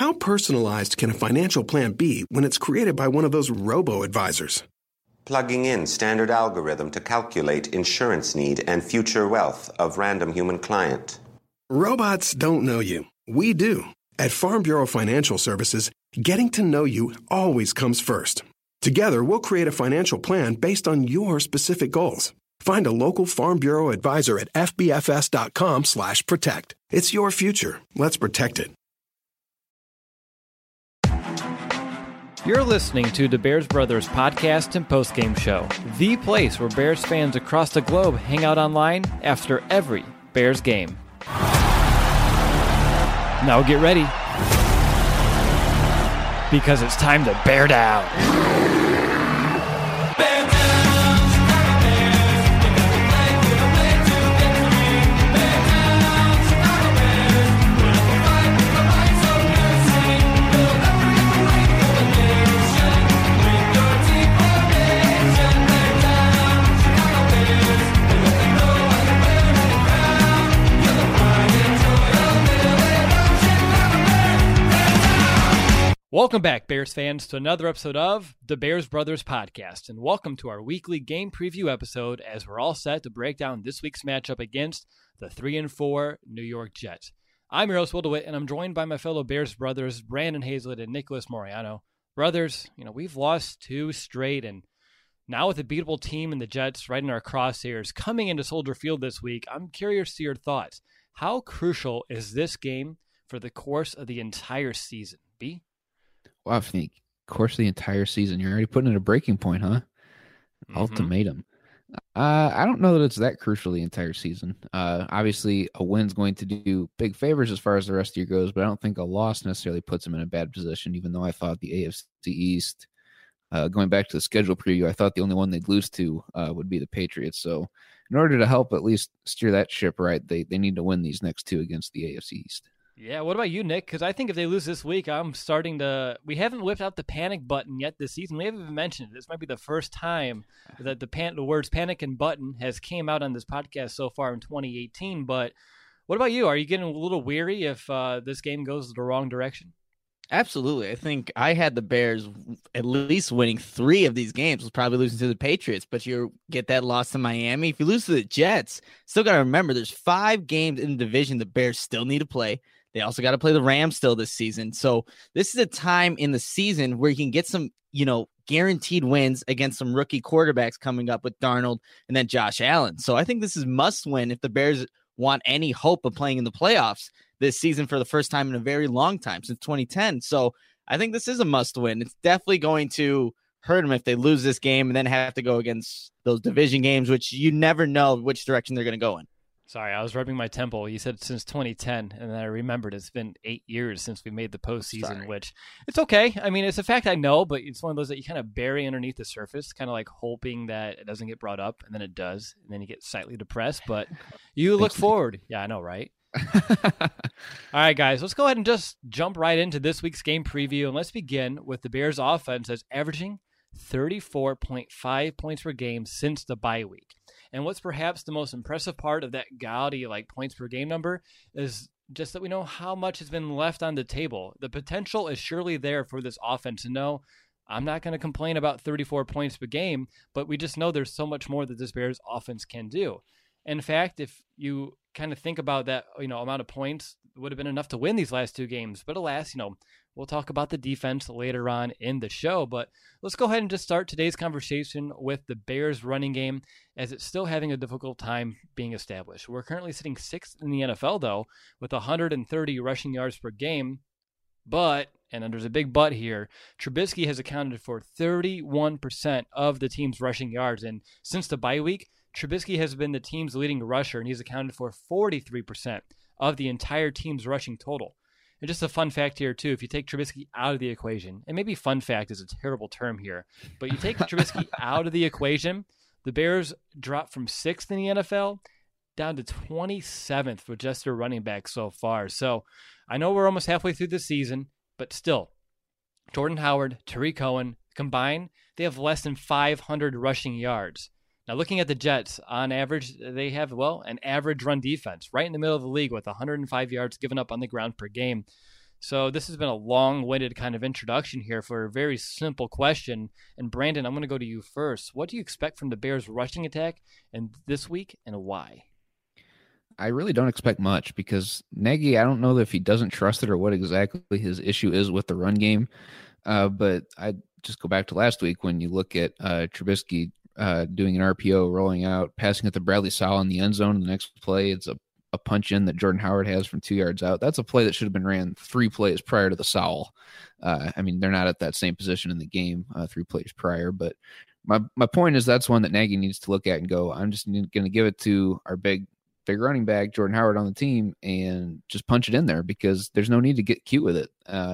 How personalized can a financial plan be when it's created by one of those robo-advisors? Plugging in standard algorithm to calculate insurance need and future wealth of random human client. Robots don't know you. We do. At Farm Bureau Financial Services, getting to know you always comes first. Together, we'll create a financial plan based on your specific goals. Find a local Farm Bureau advisor at fbfs.com/protect. It's your future. Let's protect it. You're listening to the Bears Brothers podcast and postgame show, the place where Bears fans across the globe hang out online after every Bears game. Now get ready, because it's time to bear down. Welcome back, Bears fans, to another episode of the Bears Brothers podcast, and welcome to our weekly game preview episode as we're all set to break down this week's matchup against the 3-4 New York Jets. I'm your host, Will DeWitt, and I'm joined by my fellow Bears brothers, Brandon Hazlett and Nicholas Moriano. Brothers, we've lost 2 straight, and now with a beatable team and the Jets right in our crosshairs coming into Soldier Field this week, I'm curious to your thoughts. How crucial is this game for the course of the entire season? B? Well, I think course of the entire season. You're already putting in a breaking point, huh? Mm-hmm. Ultimatum. I don't know that it's that crucial the entire season. Obviously, a win's going to do big favors as far as the rest of the year goes, but I don't think a loss necessarily puts them in a bad position, even though I thought the AFC East, going back to the schedule preview, I thought the only one they'd lose to would be the Patriots. So in order to help at least steer that ship right, they need to win these next 2 against the AFC East. Yeah, what about you, Nick? Because I think if they lose this week, I'm starting to... We haven't whipped out the panic button yet this season. We haven't even mentioned it. This might be the first time that the words panic and button has came out on this podcast so far in 2018. But what about you? Are you getting a little weary if this game goes the wrong direction? Absolutely. I think I had the Bears at least winning 3 of these games. Was probably losing to the Patriots, but you get that loss to Miami. If you lose to the Jets, still got to remember there's 5 games in the division the Bears still need to play. They also got to play the Rams still this season. So this is a time in the season where you can get some, guaranteed wins against some rookie quarterbacks coming up with Darnold and then Josh Allen. So I think this is must win if the Bears want any hope of playing in the playoffs this season for the first time in a very long time, since 2010. So I think this is a must win. It's definitely going to hurt them if they lose this game and then have to go against those division games, which you never know which direction they're going to go in. Sorry, I was rubbing my temple. You said since 2010, and then I remembered it's been 8 years since we made the postseason, which it's okay. I mean, it's a fact I know, but it's one of those that you kind of bury underneath the surface, kind of like hoping that it doesn't get brought up, and then it does, and then you get slightly depressed, but you look forward. Yeah, I know, right? All right, guys, let's go ahead and just jump right into this week's game preview, and let's begin with the Bears offense that's averaging 34.5 points per game since the bye week. And what's perhaps the most impressive part of that gaudy points per game number is just that we know how much has been left on the table. The potential is surely there for this offense. And no, I'm not going to complain about 34 points per game, but we just know there's so much more that this Bears offense can do. In fact, if you kind of think about that, amount of points, it would have been enough to win these last 2 games. But alas, we'll talk about the defense later on in the show, but let's go ahead and just start today's conversation with the Bears running game, as it's still having a difficult time being established. We're currently sitting 6th in the NFL, though, with 130 rushing yards per game, but, and there's a big but here, Trubisky has accounted for 31% of the team's rushing yards, and since the bye week, Trubisky has been the team's leading rusher, and he's accounted for 43% of the entire team's rushing total. And just a fun fact here, too, if you take Trubisky out of the equation, and maybe fun fact is a terrible term here, but you take Trubisky out of the equation, the Bears drop from 6th in the NFL down to 27th with just their running back so far. So I know we're almost halfway through the season, but still, Jordan Howard, Tariq Cohen, combined, they have less than 500 rushing yards. Now, looking at the Jets, on average, they have, an average run defense right in the middle of the league with 105 yards given up on the ground per game. So this has been a long-winded kind of introduction here for a very simple question. And Brandon, I'm going to go to you first. What do you expect from the Bears rushing attack this week, and why? I really don't expect much because Nagy, I don't know if he doesn't trust it or what exactly his issue is with the run game. But I just go back to last week when you look at Trubisky doing an RPO, rolling out, passing it to Bradley Sowell in the end zone. The next play, it's a punch in that Jordan Howard has from 2 yards out. That's a play that should have been ran 3 plays prior to the Sowell. I mean, they're not at that same position in the game 3 plays prior, but my point is that's one that Nagy needs to look at and go, I'm just going to give it to our big running back, Jordan Howard, on the team and just punch it in there because there's no need to get cute with it.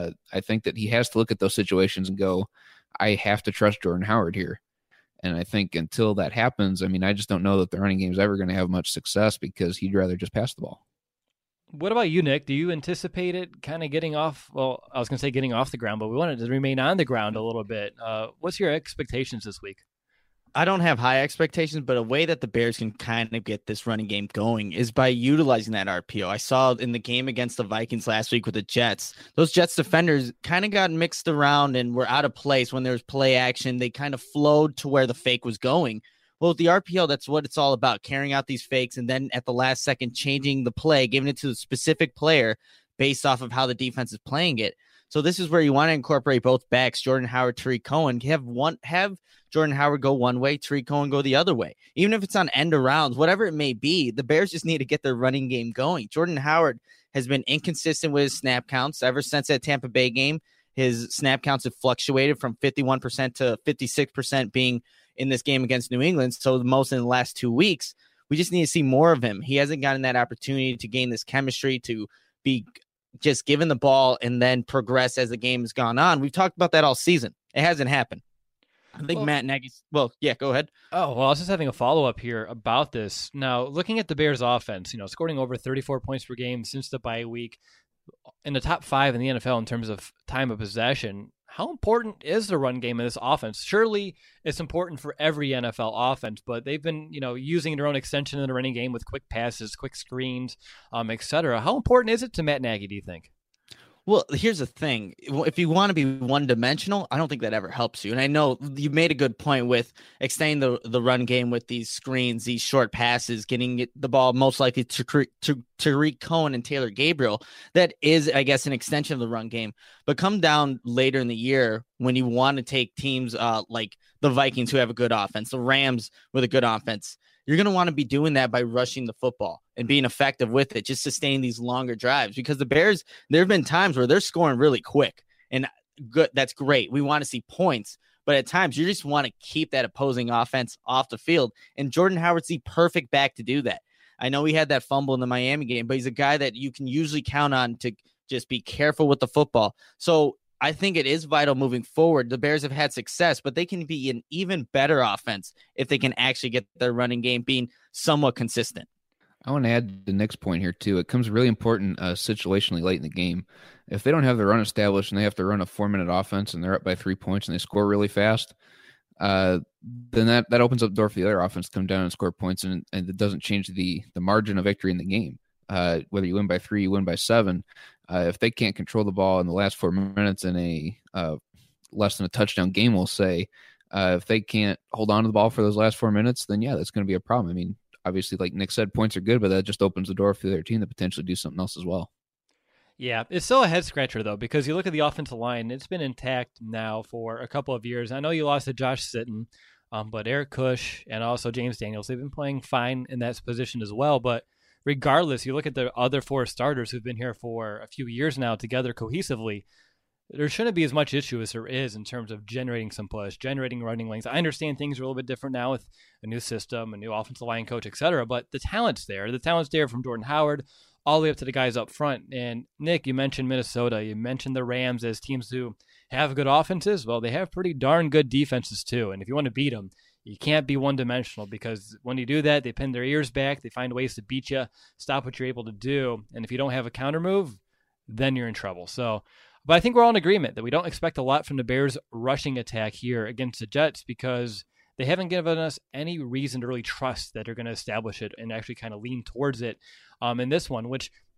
I think that he has to look at those situations and go, I have to trust Jordan Howard here. And I think until that happens, I mean, I just don't know that the running game is ever going to have much success because he'd rather just pass the ball. What about you, Nick? Do you anticipate it kind of getting off? Well, I was going to say getting off the ground, but we want it to remain on the ground a little bit. What's your expectations this week? I don't have high expectations, but a way that the Bears can kind of get this running game going is by utilizing that RPO. I saw in the game against the Vikings last week with the Jets, those Jets defenders kind of got mixed around and were out of place when there was play action. They kind of flowed to where the fake was going. Well, with the RPO, that's what it's all about, carrying out these fakes and then at the last second changing the play, giving it to the specific player based off of how the defense is playing it. So this is where you want to incorporate both backs, Jordan Howard, Tariq Cohen. Have Jordan Howard go one way, Tariq Cohen go the other way. Even if it's on end arounds, whatever it may be, the Bears just need to get their running game going. Jordan Howard has been inconsistent with his snap counts ever since that Tampa Bay game. His snap counts have fluctuated from 51% to 56% being in this game against New England. So the most in the last 2 weeks. We just need to see more of him. He hasn't gotten that opportunity to gain this chemistry, to be just given the ball and then progress as the game has gone on. We've talked about that all season. It hasn't happened. I think Matt Nagy's... Well, yeah, go ahead. Oh, well, I was just having a follow-up here about this. Now, looking at the Bears offense, scoring over 34 points per game since the bye week, in the top 5 in the NFL in terms of time of possession, how important is the run game in this offense? Surely it's important for every NFL offense, but they've been, using their own extension in the running game with quick passes, quick screens, et cetera. How important is it to Matt Nagy, do you think? Well, here's the thing. If you want to be one-dimensional, I don't think that ever helps you. And I know you made a good point with extending the run game with these screens, these short passes, getting the ball most likely to Tariq Cohen and Taylor Gabriel. That is, I guess, an extension of the run game. But come down later in the year when you want to take teams like the Vikings who have a good offense, the Rams with a good offense, you're going to want to be doing that by rushing the football and being effective with it, just sustaining these longer drives. Because the Bears, there have been times where they're scoring really quick, and good. That's great. We want to see points, but at times you just want to keep that opposing offense off the field. And Jordan Howard's the perfect back to do that. I know he had that fumble in the Miami game, but he's a guy that you can usually count on to just be careful with the football. So I think it is vital moving forward. The Bears have had success, but they can be an even better offense if they can actually get their running game being somewhat consistent. I want to add the next point here, too. It comes really important situationally late in the game. If they don't have the run established and they have to run a 4-minute offense and they're up by 3 points and they score really fast, then that opens up the door for the other offense to come down and score points, and it doesn't change the margin of victory in the game. Whether you win by 3, you win by 7. If they can't control the ball in the last 4 minutes in a less than a touchdown game, we'll say, if they can't hold on to the ball for those last 4 minutes, then yeah, that's going to be a problem. I mean, obviously, like Nick said, points are good, but that just opens the door for their team to potentially do something else as well. Yeah, it's still a head scratcher though, because you look at the offensive line, it's been intact now for a couple of years. I know you lost to Josh Sitton, but Eric Kush and also James Daniels, they've been playing fine in that position as well, but regardless, you look at the other 4 starters who've been here for a few years now together cohesively, there shouldn't be as much issue as there is in terms of generating some push, generating running lanes. I understand things are a little bit different now with a new system, a new offensive line coach, et cetera, but the talent's there. The talent's there from Jordan Howard all the way up to the guys up front. And Nick, you mentioned Minnesota. You mentioned the Rams as teams who have good offenses. Well, they have pretty darn good defenses too. And if you want to beat them, you can't be one-dimensional, because when you do that, they pin their ears back. They find ways to beat you, stop what you're able to do. And if you don't have a counter move, then you're in trouble. But I think we're all in agreement that we don't expect a lot from the Bears rushing attack here against the Jets, because they haven't given us any reason to really trust that they're going to establish it and actually kind of lean towards it in this one, which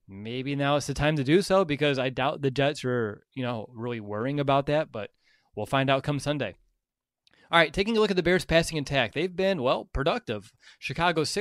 maybe now it's the time to do so, because I doubt the Jets are, really worrying about that, but we'll find out come Sunday. All right, taking a look at the Bears' passing attack. They've been, productive. Chicago's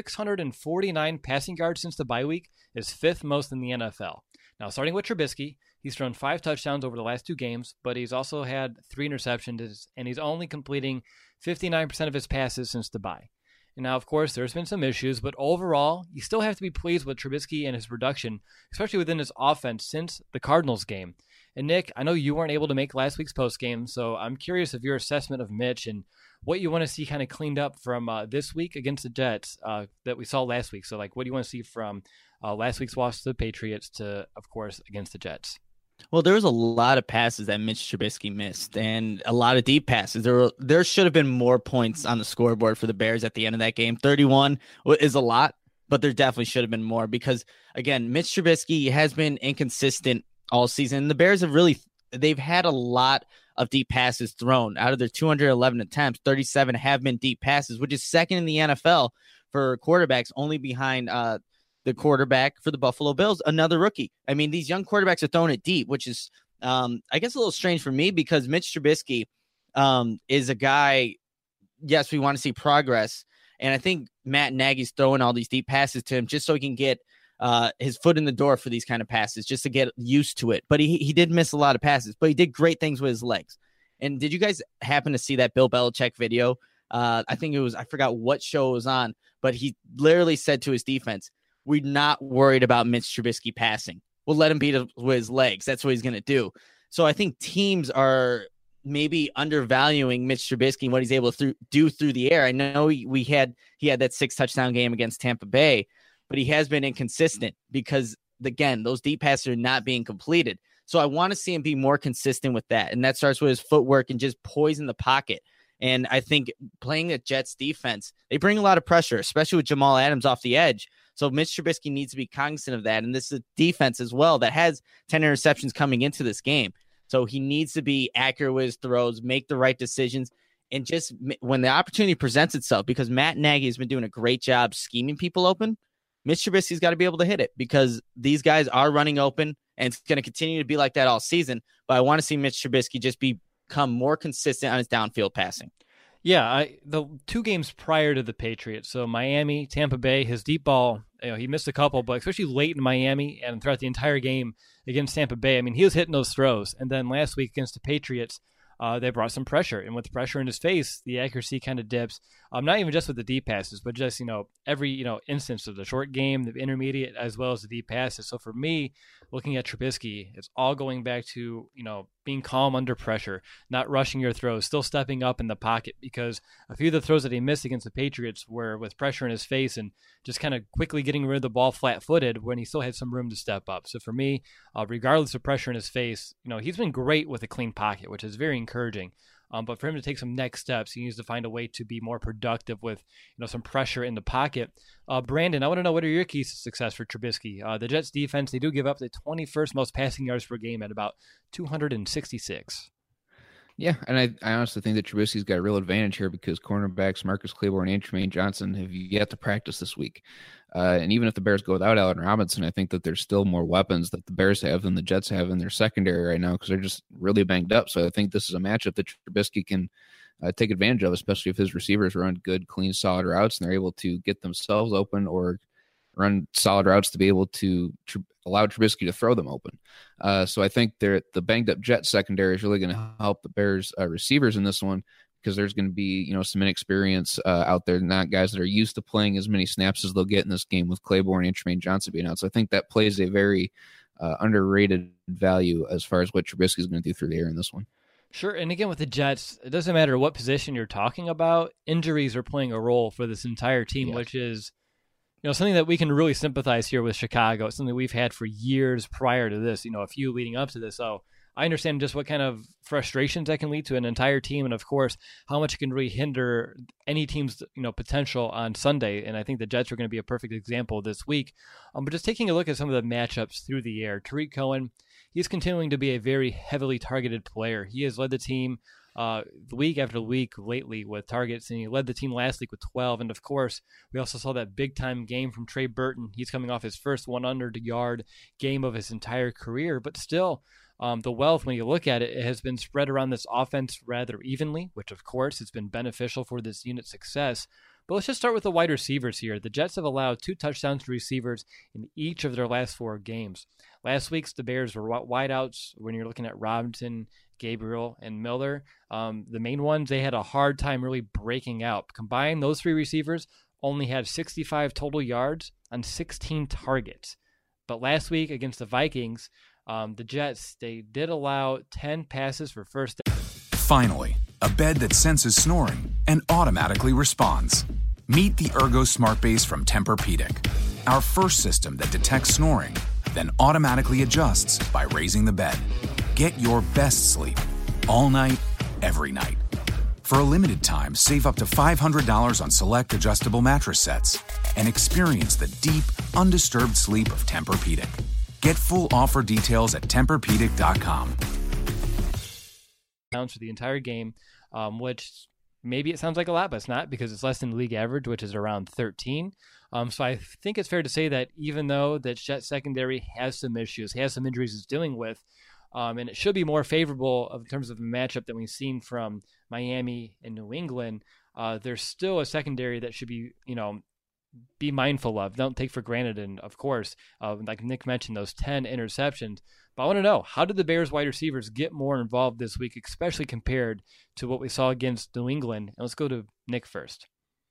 649 passing yards since the bye week is fifth most in the NFL. Now, starting with Trubisky, he's thrown 5 touchdowns over the last 2 games, but he's also had 3 interceptions, and he's only completing 59% of his passes since the bye. And now, of course, there's been some issues, but overall, you still have to be pleased with Trubisky and his production, especially within his offense since the Cardinals game. And Nick, I know you weren't able to make last week's postgame, so I'm curious of your assessment of Mitch and what you want to see kind of cleaned up from this week against the Jets that we saw last week. So, what do you want to see from last week's loss to the Patriots to, of course, against the Jets? Well, there was a lot of passes that Mitch Trubisky missed and a lot of deep passes. There should have been more points on the scoreboard for the Bears at the end of that game. 31 is a lot, but there definitely should have been more because, again, Mitch Trubisky has been inconsistent all season. The Bears they've had a lot of deep passes thrown. Out of their 211 attempts, 37 have been deep passes, which is second in the NFL for quarterbacks, only behind the quarterback for the Buffalo Bills, another rookie. I mean, these young quarterbacks are throwing it deep, which is, I guess, a little strange for me because Mitch Trubisky is a guy, yes, we want to see progress. And I think Matt Nagy's throwing all these deep passes to him just so he can get his foot in the door for these kind of passes, just to get used to it. But he did miss a lot of passes, but he did great things with his legs. And did you guys happen to see that Bill Belichick video? I think it was, I forgot what show it was on, but he literally said to his defense, "We're not worried about Mitch Trubisky passing. We'll let him beat it with his legs. That's what he's going to do." So I think teams are maybe undervaluing Mitch Trubisky and what he's able to do through the air. I know he had that 6 touchdown game against Tampa Bay, but he has been inconsistent because, again, those deep passes are not being completed. So I want to see him be more consistent with that. And that starts with his footwork and just poise in the pocket. And I think playing the Jets defense, they bring a lot of pressure, especially with Jamal Adams off the edge. So Mitch Trubisky needs to be cognizant of that. And this is a defense as well that has 10 interceptions coming into this game. So he needs to be accurate with his throws, make the right decisions, and just when the opportunity presents itself, because Matt Nagy has been doing a great job scheming people open, Mitch Trubisky's got to be able to hit it because these guys are running open, and it's going to continue to be like that all season. But I want to see Mitch Trubisky just become more consistent on his downfield passing. Yeah, the 2 games prior to the Patriots, so Miami, Tampa Bay, his deep ball, he missed a couple, but especially late in Miami and throughout the entire game against Tampa Bay, I mean, he was hitting those throws. And then last week against the Patriots, they brought some pressure. And with pressure in his face, the accuracy kind of dips. Not even just with the deep passes, but just, every, instance of the short game, the intermediate, as well as the deep passes. So for me, looking at Trubisky, it's all going back to, being calm under pressure, not rushing your throws, still stepping up in the pocket, because a few of the throws that he missed against the Patriots were with pressure in his face and just kind of quickly getting rid of the ball flat-footed when he still had some room to step up. So for me, regardless of pressure in his face, he's been great with a clean pocket, which is very encouraging. But for him to take some next steps, he needs to find a way to be more productive with, some pressure in the pocket. Brandon, I want to know, what are your keys to success for Trubisky? The Jets defense, they do give up the 21st most passing yards per game at about 266. Yeah, and I honestly think that Trubisky's got a real advantage here because cornerbacks Marcus Claiborne and Tremaine Johnson have yet to practice this week. And even if the Bears go without Allen Robinson, I think that there's still more weapons that the Bears have than the Jets have in their secondary right now because they're just really banged up. So I think this is a matchup that Trubisky can take advantage of, especially if his receivers run good, clean, solid routes and they're able to get themselves open or run solid routes to be able to allow Trubisky to throw them open. So I think the banged up Jet secondary is really going to help the Bears receivers in this one because there's going to be, some inexperience out there, not guys that are used to playing as many snaps as they'll get in this game with Claiborne and Tremaine Johnson being out. So I think that plays a very underrated value as far as what Trubisky is going to do through the air in this one. Sure. And again, with the Jets, it doesn't matter what position you're talking about. Injuries are playing a role for this entire team, which is, something that we can really sympathize here with Chicago. It's something we've had for years prior to this, a few leading up to this. So I understand just what kind of frustrations that can lead to an entire team. And of course, how much it can really hinder any team's, potential on Sunday. And I think the Jets are going to be a perfect example this week. But just taking a look at some of the matchups through the air, Tariq Cohen, he's continuing to be a very heavily targeted player. He has led the team week after week lately with targets, and he led the team last week with 12. And of course, we also saw that big time game from Trey Burton. He's coming off his first 100-yard game of his entire career, but still, the wealth, when you look at it, it has been spread around this offense rather evenly, which of course has been beneficial for this unit's success. But let's just start with the wide receivers here. The Jets have allowed 2 touchdowns to receivers in each of their last 4 games. Last week's the Bears were wideouts when you're looking at Robinson, Gabriel, and Miller. The main ones, they had a hard time really breaking out. Combined, those 3 receivers only had 65 total yards on 16 targets. But last week against the Vikings, the Jets, they did allow 10 passes for first down. Finally, a bed that senses snoring and automatically responds. Meet the Ergo Smart Base from Tempur-Pedic, our first system that detects snoring, then automatically adjusts by raising the bed. Get your best sleep all night, every night. For a limited time, save up to $500 on select adjustable mattress sets and experience the deep, undisturbed sleep of Tempur-Pedic. Get full offer details at TempurPedic.com. For the entire game, which maybe it sounds like a lot, but it's not, because it's less than league average, which is around 13. So I think it's fair to say that even though the Jets secondary has some issues, has some injuries it's dealing with, and it should be more favorable in terms of a matchup than we've seen from Miami and New England, there's still a secondary that should be mindful of, don't take for granted. And of course, like Nick mentioned, those 10 interceptions. But I want to know, how did the Bears wide receivers get more involved this week, especially compared to what we saw against New England? And let's go to Nick first.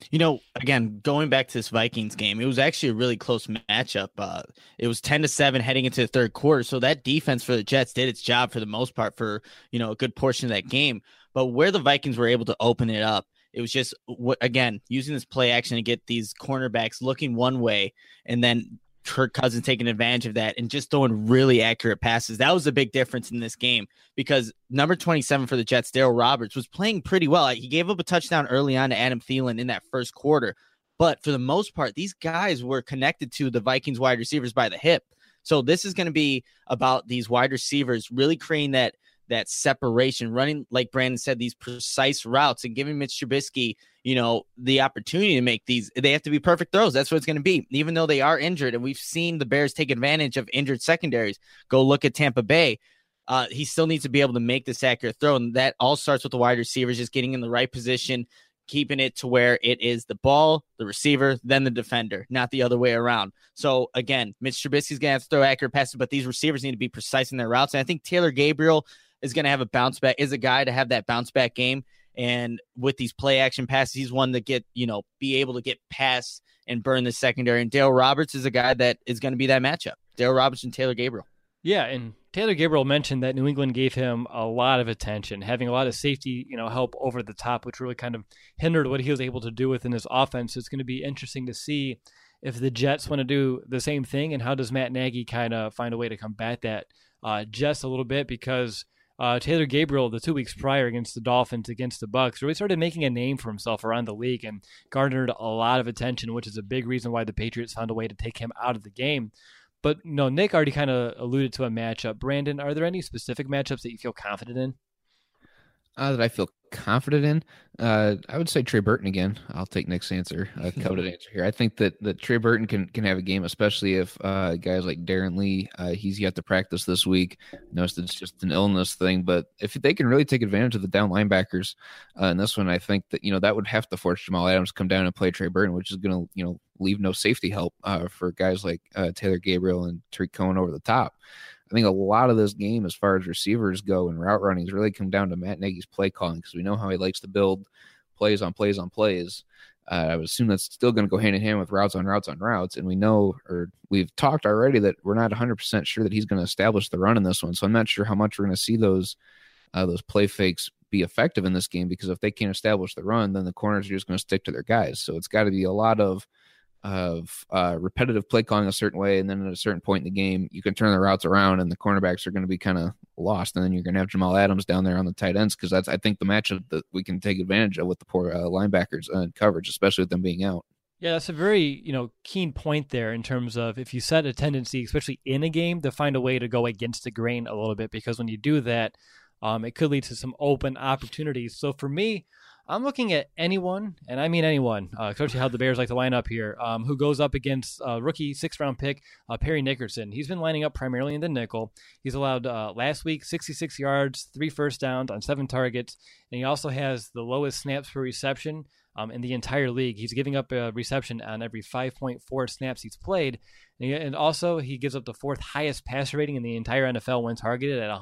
Again, going back to this Vikings game, it was actually a really close matchup. It was 10-7 heading into the third quarter. So that defense for the Jets did its job for the most part for, a good portion of that game. But where the Vikings were able to open it up, it was just, again, using this play action to get these cornerbacks looking one way, and then Kirk Cousins taking advantage of that and just throwing really accurate passes. That was a big difference in this game, because number 27 for the Jets, Darryl Roberts, was playing pretty well. He gave up a touchdown early on to Adam Thielen in that first quarter. But for the most part, these guys were connected to the Vikings wide receivers by the hip. So this is going to be about these wide receivers really creating that separation, running, like Brandon said, these precise routes, and giving Mitch Trubisky, the opportunity to make these. They have to be perfect throws. That's what it's going to be, even though they are injured. And we've seen the Bears take advantage of injured secondaries. Go look at Tampa Bay. He still needs to be able to make this accurate throw. And that all starts with the wide receivers just getting in the right position, keeping it to where it is the ball, the receiver, then the defender, not the other way around. So again, Mitch Trubisky's going to have to throw accurate passes, but these receivers need to be precise in their routes. And I think Taylor Gabriel is going to have a bounce back, is a guy to have that bounce back game. And with these play action passes, he's one that be able to get past and burn the secondary. And Darryl Roberts is a guy that is going to be that matchup. Darryl Roberts and Taylor Gabriel. Yeah, and Taylor Gabriel mentioned that New England gave him a lot of attention, having a lot of safety, help over the top, which really kind of hindered what he was able to do within his offense. So it's going to be interesting to see if the Jets want to do the same thing, and how does Matt Nagy kind of find a way to combat that just a little bit, because Taylor Gabriel, the 2 weeks prior against the Dolphins, against the Bucs, really started making a name for himself around the league and garnered a lot of attention, which is a big reason why the Patriots found a way to take him out of the game. But Nick already kind of alluded to a matchup. Brandon, are there any specific matchups that you feel confident in? That I feel confident in, I would say Trey Burton again. I'll take Nick's answer, coveted answer here. I think that Trey Burton can have a game, especially if guys like Darren Lee, he's yet to practice this week. Noticed it's just an illness thing, but if they can really take advantage of the down linebackers in this one, I think that that would have to force Jamal Adams to come down and play Trey Burton, which is going to leave no safety help for guys like Taylor Gabriel and Tariq Cohen over the top. I think a lot of this game, as far as receivers go and route running, has really come down to Matt Nagy's play calling, because we know how he likes to build plays on plays on plays. I would assume that's still going to go hand in hand with routes on routes on routes. And we know, or we've talked already, that we're not 100% sure that he's going to establish the run in this one. So I'm not sure how much we're going to see those play fakes be effective in this game, because if they can't establish the run, then the corners are just going to stick to their guys. So it's got to be a lot of repetitive play calling a certain way, and then at a certain point in the game you can turn the routes around and the cornerbacks are going to be kind of lost, and then you're going to have Jamal Adams down there on the tight ends, because that's, I think, the matchup that we can take advantage of with the poor linebackers and coverage, especially with them being out. Yeah, that's a very keen point there, in terms of if you set a tendency, especially in a game, to find a way to go against the grain a little bit, because when you do that, it could lead to some open opportunities. So for me, I'm looking at anyone, and I mean anyone, especially how the Bears like to line up here, who goes up against rookie 6th-round pick Perry Nickerson. He's been lining up primarily in the nickel. He's allowed last week 66 yards, 3 first downs on 7 targets, and he also has the lowest snaps per reception in the entire league. He's giving up a reception on every 5.4 snaps he's played. And also, he gives up the 4th highest passer rating in the entire NFL when targeted at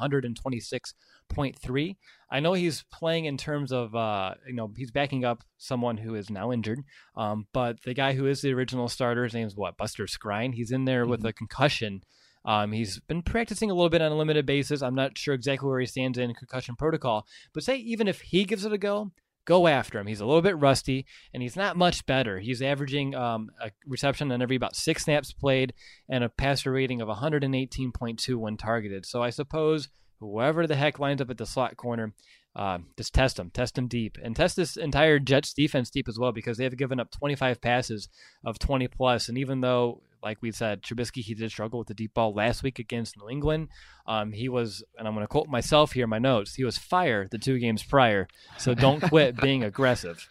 126.3. I know he's playing in terms of, he's backing up someone who is now injured. But the guy who is the original starter, his name is Buster Skrine. He's in there with a concussion. He's been practicing a little bit on a limited basis. I'm not sure exactly where he stands in concussion protocol. But say even if he gives it a go after him. He's a little bit rusty, and he's not much better. He's averaging a reception on every about 6 snaps played and a passer rating of 118.2 when targeted. So I suppose whoever the heck lines up at the slot corner, just test him deep, and test this entire Jets defense deep as well, because they have given up 25 passes of 20 plus. And even though, like we said, Trubisky, he did struggle with the deep ball last week against New England. He was, and I'm going to quote myself here in my notes, he was fire the 2 games prior. So don't quit being aggressive.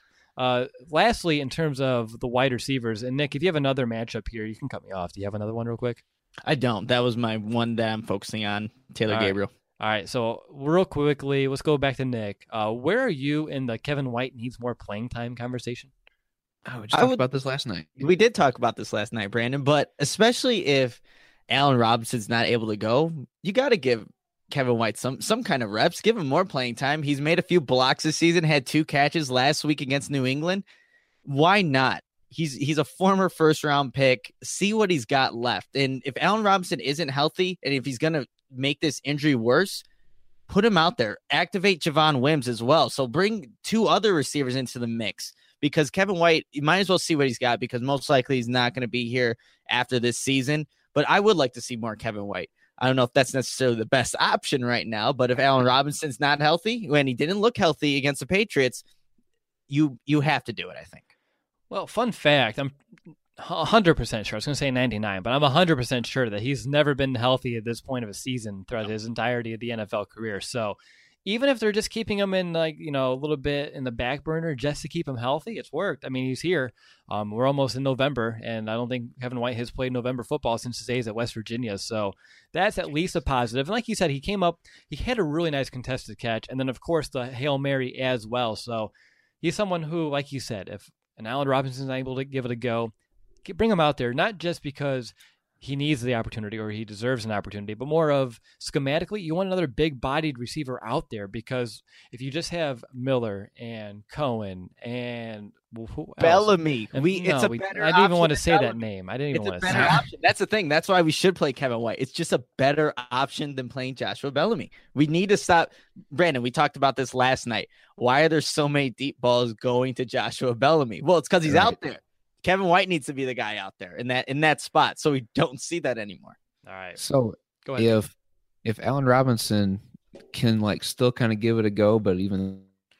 Lastly, in terms of the wide receivers, and Nick, if you have another matchup here, you can cut me off. Do you have another one real quick? I don't. That was my one that I'm focusing on, Taylor Gabriel. All right, so real quickly, let's go back to Nick. Where are you in the Kevin White needs more playing time conversation? Oh, we just talked about this last night. We did talk about this last night, Brandon, but especially if Allen Robinson's not able to go, you got to give Kevin White some kind of reps, give him more playing time. He's made a few blocks this season, had 2 catches last week against New England. Why not? He's a former 1st-round pick. See what he's got left. And if Allen Robinson isn't healthy, and if he's going to make this injury worse, put him out there. Activate Javon Wims as well. So bring 2 other receivers into the mix, because Kevin White, you might as well see what he's got, because most likely he's not going to be here after this season. But I would like to see more Kevin White. I don't know if that's necessarily the best option right now, but if Allen Robinson's not healthy, when he didn't look healthy against the Patriots, you have to do it, I think. Well, fun fact, I'm 100% sure. I was going to say 99, but I'm 100% sure that he's never been healthy at this point of a season throughout his entirety of the NFL career. So even if they're just keeping him in, a little bit in the back burner just to keep him healthy, it's worked. I mean, he's here. We're almost in November, and I don't think Kevin White has played November football since his days at West Virginia. So that's at least a positive. And like you said, he came up, he had a really nice contested catch, and then, of course, the Hail Mary as well. So he's someone who, like you said, if an Allen Robinson's able to give it a go, bring him out there, not just because he needs the opportunity or he deserves an opportunity, but more of schematically, you want another big-bodied receiver out there, because if you just have Miller and Cohen and Bellamy, I didn't even want to say that name. I didn't even want to say option. That's the thing. That's why we should play Kevin White. It's just a better option than playing Joshua Bellamy. We need to stop. Brandon, we talked about this last night. Why are there so many deep balls going to Joshua Bellamy? Well, it's because he's out there. Kevin White needs to be the guy out there in that spot, so we don't see that anymore. All right. So go ahead. If Allen Robinson can still kind of give it a go, but even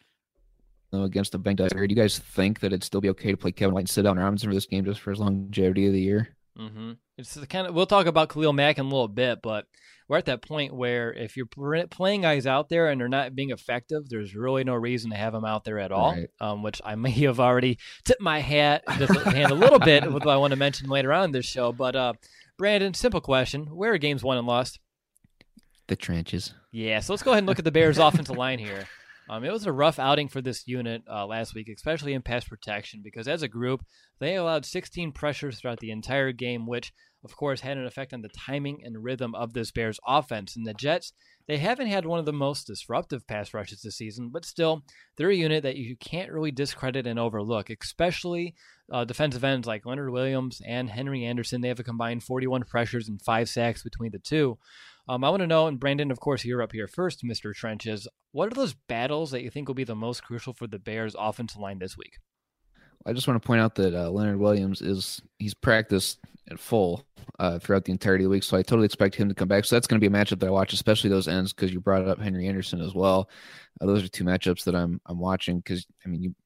though against a banged up, do you guys think that it'd still be okay to play Kevin White and sit Allen Robinson for this game just for his longevity of the year? Mm-hmm. It's the kind of, we'll talk about Khalil Mack in a little bit, but we're at that point where if you're playing guys out there and they're not being effective, there's really no reason to have them out there at all, right. Which I may have already tipped my hand a little bit with what I want to mention later on in this show. But Brandon, simple question. Where are games won and lost? The trenches. Yeah, so let's go ahead and look at the Bears' offensive line here. It was a rough outing for this unit last week, especially in pass protection, because as a group, they allowed 16 pressures throughout the entire game, which, of course, had an effect on the timing and rhythm of this Bears offense. And the Jets, they haven't had one of the most disruptive pass rushes this season, but still, they're a unit that you can't really discredit and overlook, especially defensive ends like Leonard Williams and Henry Anderson. They have a combined 41 pressures and 5 sacks between the two. I want to know, and Brandon, of course, you're up here first, Mr. Trenches. What are those battles that you think will be the most crucial for the Bears' offensive line this week? I just want to point out that Leonard Williams he's practiced at full throughout the entirety of the week, so I totally expect him to come back. So that's going to be a matchup that I watch, especially those ends, because you brought up Henry Anderson as well. Those are 2 matchups that I'm watching, because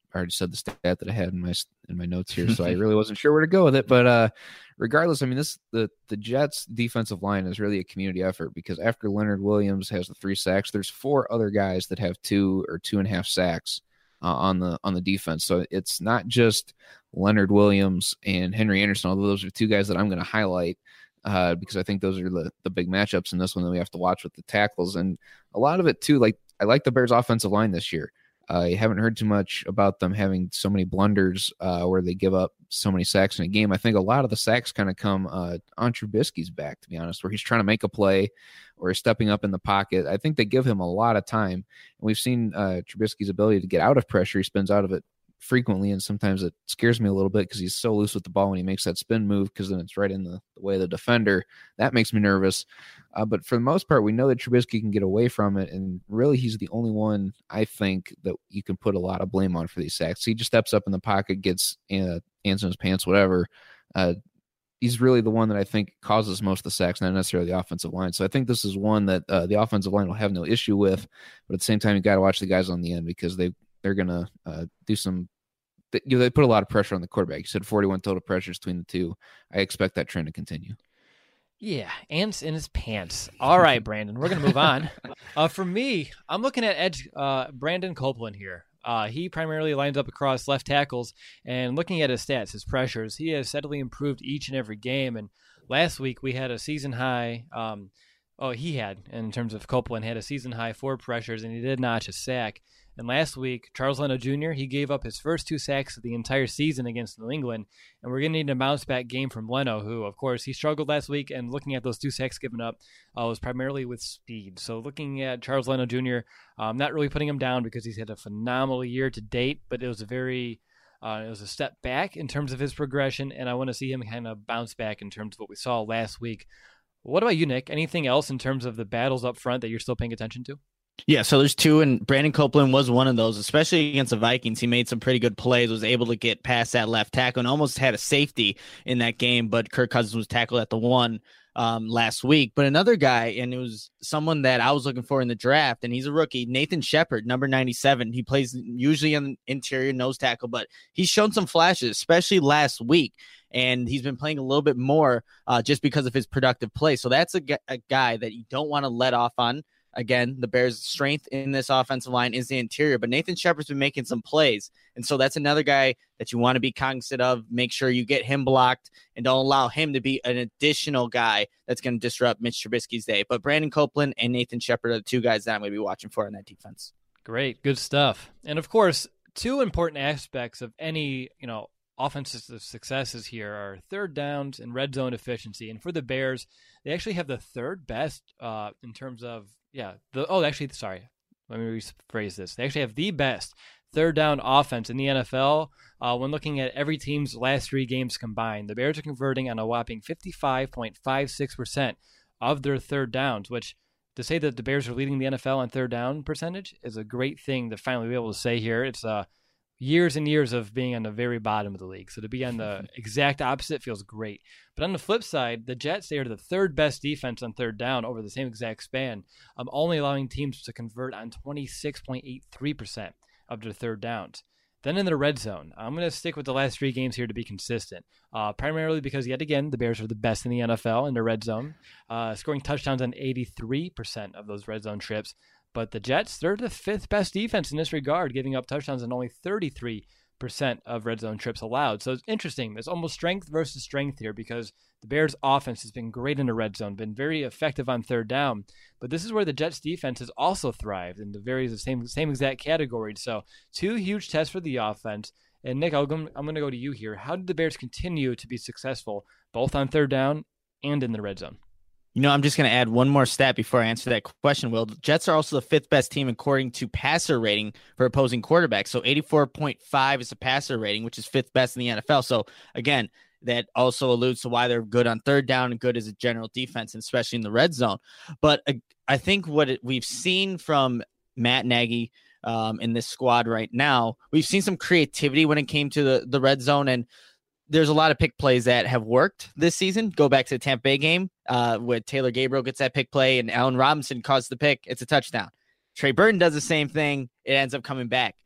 already said the stat that I had in my notes here, so I really wasn't sure where to go with it. But regardless, I mean, the Jets defensive line is really a community effort, because after Leonard Williams has the 3 sacks, there's 4 other guys that have 2 or 2.5 sacks on the defense. So it's not just Leonard Williams and Henry Anderson, although those are 2 guys that I'm going to highlight because I think those are the big matchups in this one that we have to watch with the tackles. And a lot of it too, like I like the Bears offensive line this year. I haven't heard too much about them having so many blunders where they give up so many sacks in a game. I think a lot of the sacks kind of come on Trubisky's back, to be honest, where he's trying to make a play or stepping up in the pocket. I think they give him a lot of time. And we've seen Trubisky's ability to get out of pressure. He spins out of it frequently, and sometimes it scares me a little bit because he's so loose with the ball when he makes that spin move, because then it's right in the way of the defender. That makes me nervous. But for the most part, we know that Trubisky can get away from it, and really he's the only one, I think, that you can put a lot of blame on for these sacks. He just steps up in the pocket, gets hands in his pants, whatever. He's really the one that I think causes most of the sacks, not necessarily the offensive line. So I think this is one that the offensive line will have no issue with, but at the same time, you got to watch the guys on the end, because they're going to do some – they put a lot of pressure on the quarterback. You said 41 total pressures between the two. I expect that trend to continue. Yeah, ants in his pants. All right, Brandon, we're going to move on. For me, I'm looking at edge Brandon Copeland here. He primarily lines up across left tackles, and looking at his stats, his pressures, he has steadily improved each and every game. And last week we had a season high he had, in terms of Copeland, had a season high 4 pressures, and he did notch a sack. And last week, Charles Leno Jr., he gave up his first 2 sacks of the entire season against New England, and we're going to need a bounce-back game from Leno, who, of course, he struggled last week, and looking at those 2 sacks given up was primarily with speed. So looking at Charles Leno Jr., I'm not really putting him down because he's had a phenomenal year to date, but it was a step back in terms of his progression, and I want to see him kind of bounce back in terms of what we saw last week. What about you, Nick? Anything else in terms of the battles up front that you're still paying attention to? Yeah, so there's 2, and Brandon Copeland was one of those, especially against the Vikings. He made some pretty good plays, was able to get past that left tackle, and almost had a safety in that game, but Kirk Cousins was tackled at the 1 last week. But another guy, and it was someone that I was looking for in the draft, and he's a rookie, Nathan Shepard, number 97. He plays usually on interior nose tackle, but he's shown some flashes, especially last week. And he's been playing a little bit more just because of his productive play. So that's a guy that you don't want to let off on. Again, the Bears' strength in this offensive line is the interior, but Nathan Shepard's been making some plays. And so that's another guy that you want to be cognizant of. Make sure you get him blocked and don't allow him to be an additional guy that's going to disrupt Mitch Trubisky's day. But Brandon Copeland and Nathan Shepard are the 2 guys that I'm going to be watching for in that defense. Great. Good stuff. And of course, 2 important aspects of any, offensive successes here are third downs and red zone efficiency. And for the Bears, they actually have the 3rd best in terms of, let me rephrase this. They actually have the best third down offense in the NFL when looking at every team's last 3 games combined. The Bears are converting on a whopping 55.56% of their third downs, which to say that the Bears are leading the NFL on third down percentage is a great thing to finally be able to say here. It's years and years of being on the very bottom of the league. So to be on the exact opposite feels great. But on the flip side, the Jets, they are the 3rd best defense on third down over the same exact span, only allowing teams to convert on 26.83% of their third downs. Then in the red zone, I'm going to stick with the last 3 games here to be consistent, primarily because, yet again, the Bears are the best in the NFL in the red zone, scoring touchdowns on 83% of those red zone trips. But the Jets, they're the 5th best defense in this regard, giving up touchdowns on only 33% of red zone trips allowed. So it's interesting. There's almost strength versus strength here, because the Bears' offense has been great in the red zone, been very effective on third down. But this is where the Jets' defense has also thrived in the same exact categories. So 2 huge tests for the offense. And Nick, I'm going to go to you here. How did the Bears continue to be successful both on third down and in the red zone? I'm just going to add one more stat before I answer that question, Will. The Jets are also the 5th best team according to passer rating for opposing quarterbacks. So 84.5 is the passer rating, which is 5th best in the NFL. So again, that also alludes to why they're good on third down and good as a general defense, and especially in the red zone. But I think we've seen from Matt Nagy in this squad right now, we've seen some creativity when it came to the red zone, and there's a lot of pick plays that have worked this season. Go back to the Tampa Bay game where Taylor Gabriel gets that pick play and Allen Robinson causes the pick. It's a touchdown. Trey Burton does the same thing. It ends up coming back.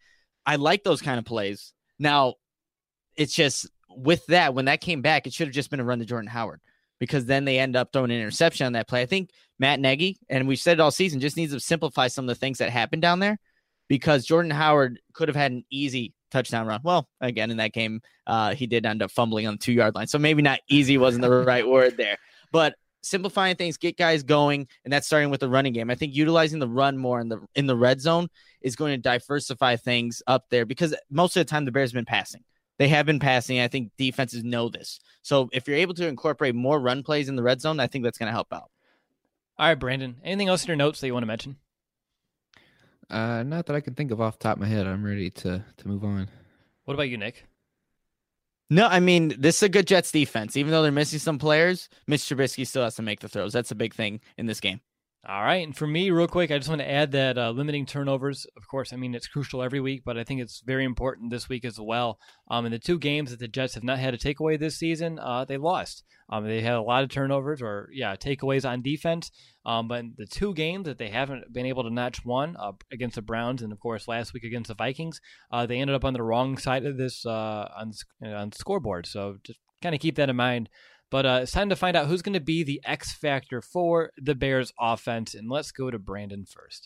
I like those kind of plays. Now, it's just with that, when that came back, it should have just been a run to Jordan Howard, because then they end up throwing an interception on that play. I think Matt Nagy, and we've said it all season, just needs to simplify some of the things that happened down there, because Jordan Howard could have had an easy touchdown run. Well, again, in that game, he did end up fumbling on the 2-yard line. So maybe not easy wasn't the right word there, but simplifying things, get guys going, and that's starting with the running game. I think utilizing the run more in the red zone is going to diversify things up there, because most of the time the Bears have been passing. They have been passing. I think defenses know this. So if you're able to incorporate more run plays in the red zone, I think that's going to help out. All right, Brandon, anything else in your notes that you want to mention? Not that I can think of off the top of my head. I'm ready to move on. What about you, Nick? No, I mean, this is a good Jets defense. Even though they're missing some players, Mitch Trubisky still has to make the throws. That's a big thing in this game. All right, and for me, real quick, I just want to add that limiting turnovers, of course, I mean, it's crucial every week, but I think it's very important this week as well. In the 2 games that the Jets have not had a takeaway this season, they lost. They had a lot of turnovers takeaways on defense, but in the 2 games that they haven't been able to notch one, against the Browns and, of course, last week against the Vikings, they ended up on the wrong side of this on the scoreboard, so just kind of keep that in mind. But it's time to find out who's going to be the X factor for the Bears offense. And let's go to Brandon first.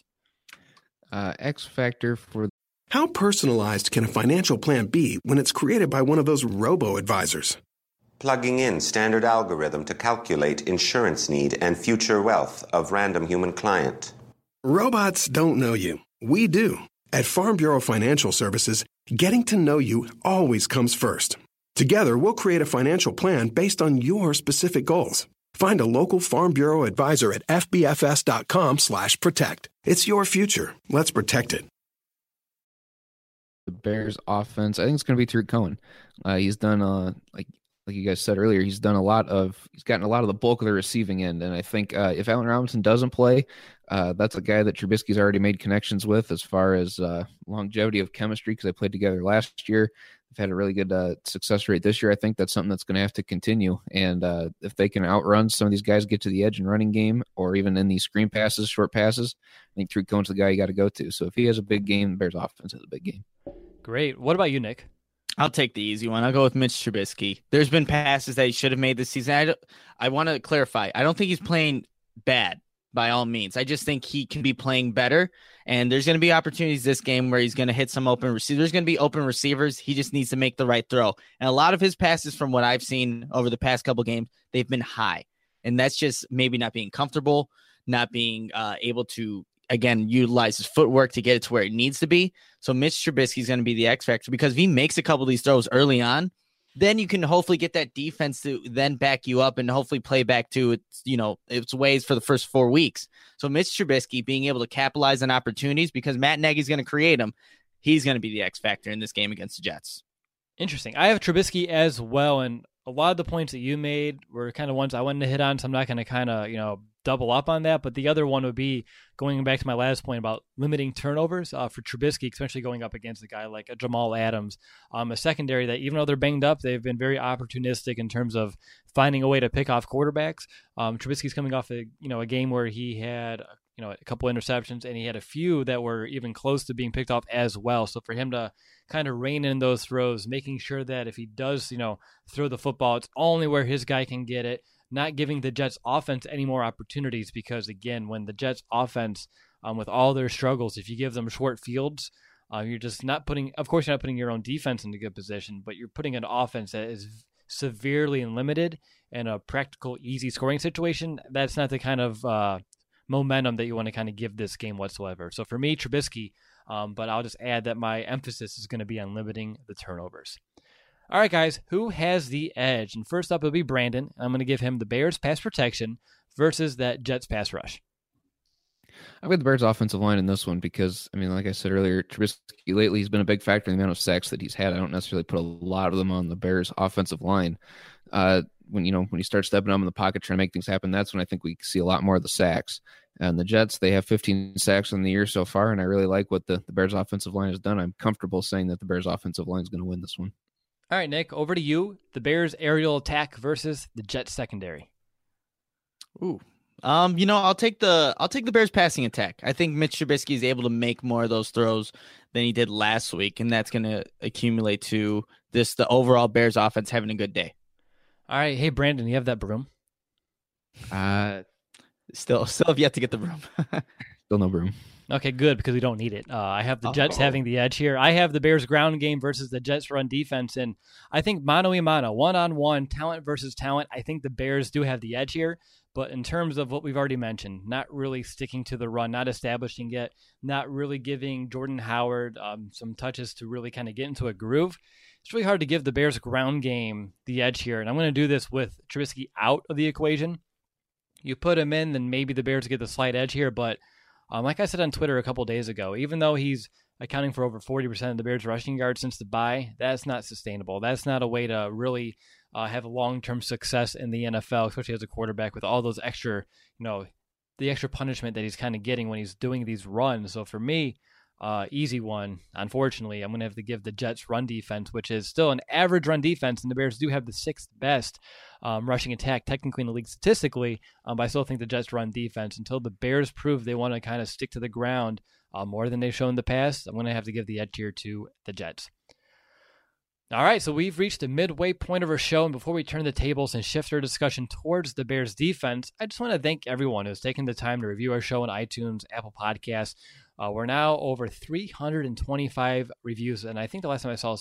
X factor for... How personalized can a financial plan be when it's created by one of those robo-advisors? Plugging in standard algorithm to calculate insurance need and future wealth of random human client. Robots don't know you. We do. At Farm Bureau Financial Services, getting to know you always comes first. Together, we'll create a financial plan based on your specific goals. Find a local Farm Bureau advisor at fbfs.com/protect. It's your future. Let's protect it. The Bears offense, I think it's going to be Tariq Cohen. He's done, like you guys said earlier, he's gotten a lot of the bulk of the receiving end. And I think if Allen Robinson doesn't play, that's a guy that Trubisky's already made connections with as far as longevity of chemistry, because they played together last year. They've had a really good success rate this year. I think that's something that's going to have to continue. And if they can outrun some of these guys, get to the edge in running game, or even in these screen passes, short passes, I think Tariq Cohen's the guy you got to go to. So if he has a big game, the Bears offense has a big game. Great. What about you, Nick? I'll take the easy one. I'll go with Mitch Trubisky. There's been passes that he should have made this season. I want to clarify. I don't think he's playing bad by all means. I just think he can be playing better. And there's going to be opportunities this game where he's going to hit some open receivers. There's going to be open receivers. He just needs to make the right throw. And a lot of his passes, from what I've seen over the past couple games, they've been high. And that's just maybe not being comfortable, not being able to, again, utilize his footwork to get it to where it needs to be. So Mitch Trubisky is going to be the X factor, because if he makes a couple of these throws early on, then you can hopefully get that defense to then back you up and hopefully play back to its ways for the first 4 weeks. So Mitch Trubisky being able to capitalize on opportunities, because Matt Nagy's going to create them, he's going to be the X factor in this game against the Jets. Interesting. I have Trubisky as well, and a lot of the points that you made were kind of ones I wanted to hit on, so I'm not going to kind of, double up on that. But the other one would be going back to my last point about limiting turnovers for Trubisky, especially going up against a guy like a Jamal Adams, a secondary that, even though they're banged up, they've been very opportunistic in terms of finding a way to pick off quarterbacks. Trubisky's coming off a game where he had a couple interceptions, and he had a few that were even close to being picked off as well. So for him to kind of rein in those throws, making sure that if he does, throw the football, it's only where his guy can get it, not giving the Jets offense any more opportunities, because again, when the Jets offense, with all their struggles, if you give them short fields, you're just not putting, of course, you're not putting your own defense into good position, but you're putting an offense that is severely limited in a practical, easy scoring situation. That's not the kind of momentum that you want to kind of give this game whatsoever. So for me, Trubisky, but I'll just add that my emphasis is going to be on limiting the turnovers. All right, guys, who has the edge? And first up, it'll be Brandon. I'm going to give him the Bears pass protection versus that Jets pass rush. I've got the Bears offensive line in this one because, like I said earlier, Trubisky lately has been a big factor in the amount of sacks that he's had. I don't necessarily put a lot of them on the Bears offensive line. When you start stepping up in the pocket trying to make things happen, that's when I think we see a lot more of the sacks. And the Jets, they have 15 sacks in the year so far, and I really like what the Bears offensive line has done. I'm comfortable saying that the Bears offensive line is going to win this one. All right, Nick, over to you. The Bears aerial attack versus the Jets secondary. Ooh, I'll take the Bears passing attack. I think Mitch Trubisky is able to make more of those throws than he did last week, and that's going to accumulate to the overall Bears offense having a good day. All right, hey Brandon, you have that broom? Still have yet to get the broom. Still no broom. Okay, good, because we don't need it. I have the Jets having the edge here. I have the Bears ground game versus the Jets run defense, and I think mano a mano, one-on-one, talent versus talent, I think the Bears do have the edge here. But in terms of what we've already mentioned, not really sticking to the run, not establishing it, not really giving Jordan Howard some touches to really kind of get into a groove, it's really hard to give the Bears ground game the edge here. And I'm going to do this with Trubisky out of the equation. You put him in, then maybe the Bears get the slight edge here, but like I said on Twitter a couple days ago, even though he's accounting for over 40% of the Bears' rushing yards since the bye, that's not sustainable. That's not a way to really have long-term success in the NFL, especially as a quarterback with all those extra, the extra punishment that he's kind of getting when he's doing these runs. So for me, easy one. Unfortunately, I'm going to have to give the Jets run defense, which is still an average run defense, and the Bears do have the 6th best rushing attack technically in the league statistically, but I still think the Jets run defense, until the Bears prove they want to kind of stick to the ground more than they've shown in the past, I'm going to have to give the edge here to the Jets. All right, so we've reached the midway point of our show, and before we turn the tables and shift our discussion towards the Bears defense, I just want to thank everyone who's taken the time to review our show on iTunes, Apple Podcasts. We're now over 325 reviews, and I think the last time I saw was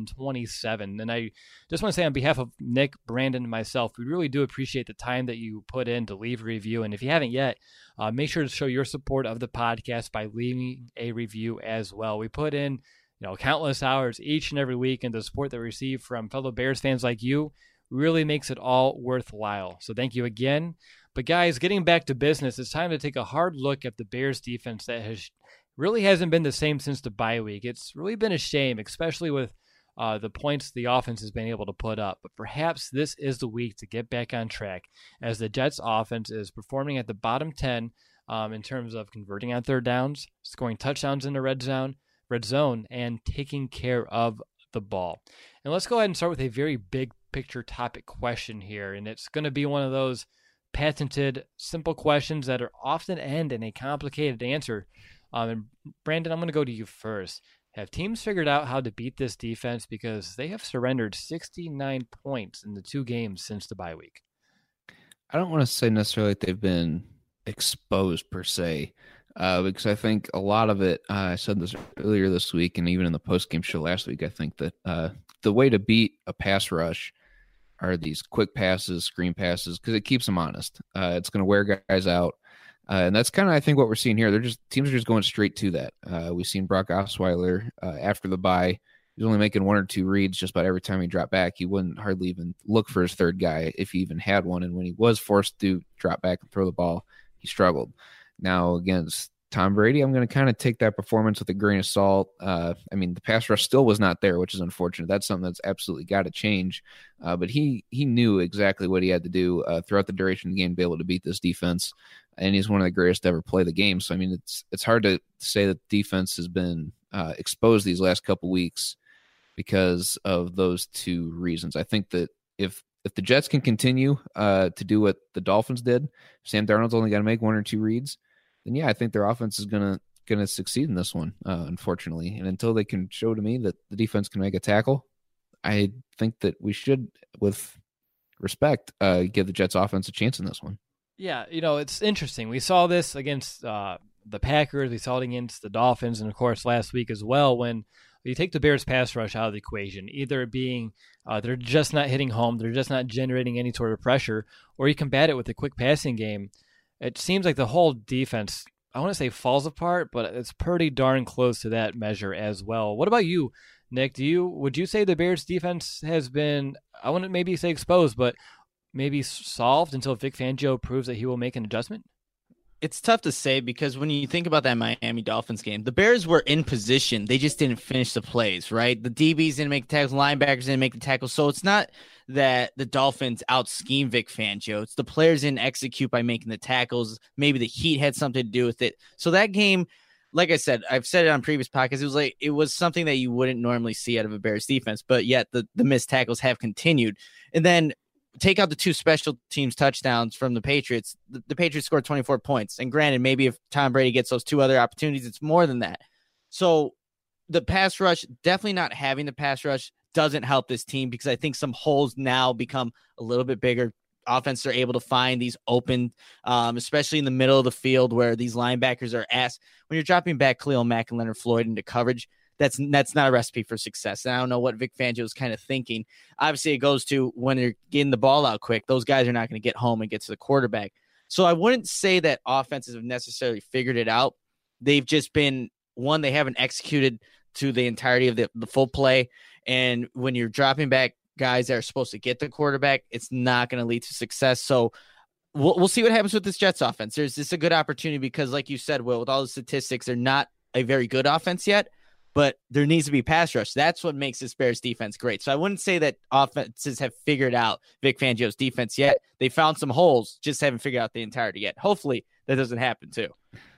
327. And I just want to say on behalf of Nick, Brandon, and myself, we really do appreciate the time that you put in to leave a review. And if you haven't yet, make sure to show your support of the podcast by leaving a review as well. We put in countless hours each and every week, and the support that we receive from fellow Bears fans like you really makes it all worthwhile. So thank you again. But guys, getting back to business, it's time to take a hard look at the Bears defense that really hasn't been the same since the bye week. It's really been a shame, especially with the points the offense has been able to put up. But perhaps this is the week to get back on track, as the Jets offense is performing at the bottom 10 in terms of converting on third downs, scoring touchdowns in the red zone, and taking care of the ball. And let's go ahead and start with a very big picture topic question here. And it's going to be one of those patented, simple questions that are often end in a complicated answer. And Brandon, I'm going to go to you first. Have teams figured out how to beat this defense? Because they have surrendered 69 points in the 2 games since the bye week. I don't want to say necessarily that they've been exposed per se, because I think a lot of it, I said this earlier this week and even in the post-game show last week, I think that the way to beat a pass rush are these quick passes, screen passes, because it keeps them honest. It's going to wear guys out. And that's kind of, I think, what we're seeing here. Teams are just going straight to that. We've seen Brock Osweiler after the bye. He was only making 1 or 2 reads just about every time he dropped back. He wouldn't hardly even look for his third guy if he even had one. And when he was forced to drop back and throw the ball, he struggled. Now against Tom Brady, I'm going to kind of take that performance with a grain of salt. The pass rush still was not there, which is unfortunate. That's something that's absolutely got to change. But he knew exactly what he had to do throughout the duration of the game to be able to beat this defense. And he's one of the greatest to ever play the game. So, it's hard to say that the defense has been exposed these last couple weeks because of those 2 reasons. I think that if the Jets can continue to do what the Dolphins did, Sam Darnold's only got to make 1 or 2 reads, then yeah, I think their offense is gonna succeed in this one, unfortunately. And until they can show to me that the defense can make a tackle, I think that we should, with respect, give the Jets offense a chance in this one. Yeah, it's interesting. We saw this against the Packers. We saw it against the Dolphins, and of course last week as well, when you take the Bears pass rush out of the equation, either being they're just not hitting home, they're just not generating any sort of pressure, or you combat it with a quick passing game. It seems like the whole defense, I want to say falls apart, but it's pretty darn close to that measure as well. What about you, Nick? Would you say the Bears defense has been, I wouldn't maybe say exposed, but maybe solved until Vic Fangio proves that he will make an adjustment? It's tough to say, because when you think about that Miami Dolphins game, the Bears were in position. They just didn't finish the plays, right? The DBs didn't make the tackles, linebackers didn't make the tackles. So it's not that the Dolphins out-scheme Vic Fangio. It's the players didn't execute by making the tackles. Maybe the heat had something to do with it. So that game, like I said, I've said it on previous podcasts, it was something that you wouldn't normally see out of a Bears defense, but yet the missed tackles have continued. And then take out the 2 special teams touchdowns from the Patriots, the Patriots scored 24 points. And granted, maybe if Tom Brady gets those 2 other opportunities, it's more than that. So the pass rush, definitely not having the pass rush doesn't help this team, because I think some holes now become a little bit bigger. Offense are able to find these open, especially in the middle of the field where these linebackers are asked. When you're dropping back Khalil Mack and Leonard Floyd into coverage, that's not a recipe for success. And I don't know what Vic Fangio is kind of thinking. Obviously, it goes to when you're getting the ball out quick, those guys are not going to get home and get to the quarterback. So I wouldn't say that offenses have necessarily figured it out. They've just been, one, they haven't executed to the entirety of the full play. And when you're dropping back guys that are supposed to get the quarterback, it's not going to lead to success. So we'll see what happens with this Jets offense. There's this a good opportunity because, like you said, Will, with all the statistics, they're not a very good offense yet, but there needs to be pass rush. That's what makes this Bears defense great. So I wouldn't say that offenses have figured out Vic Fangio's defense yet. They found some holes, just haven't figured out the entirety yet. Hopefully that doesn't happen too.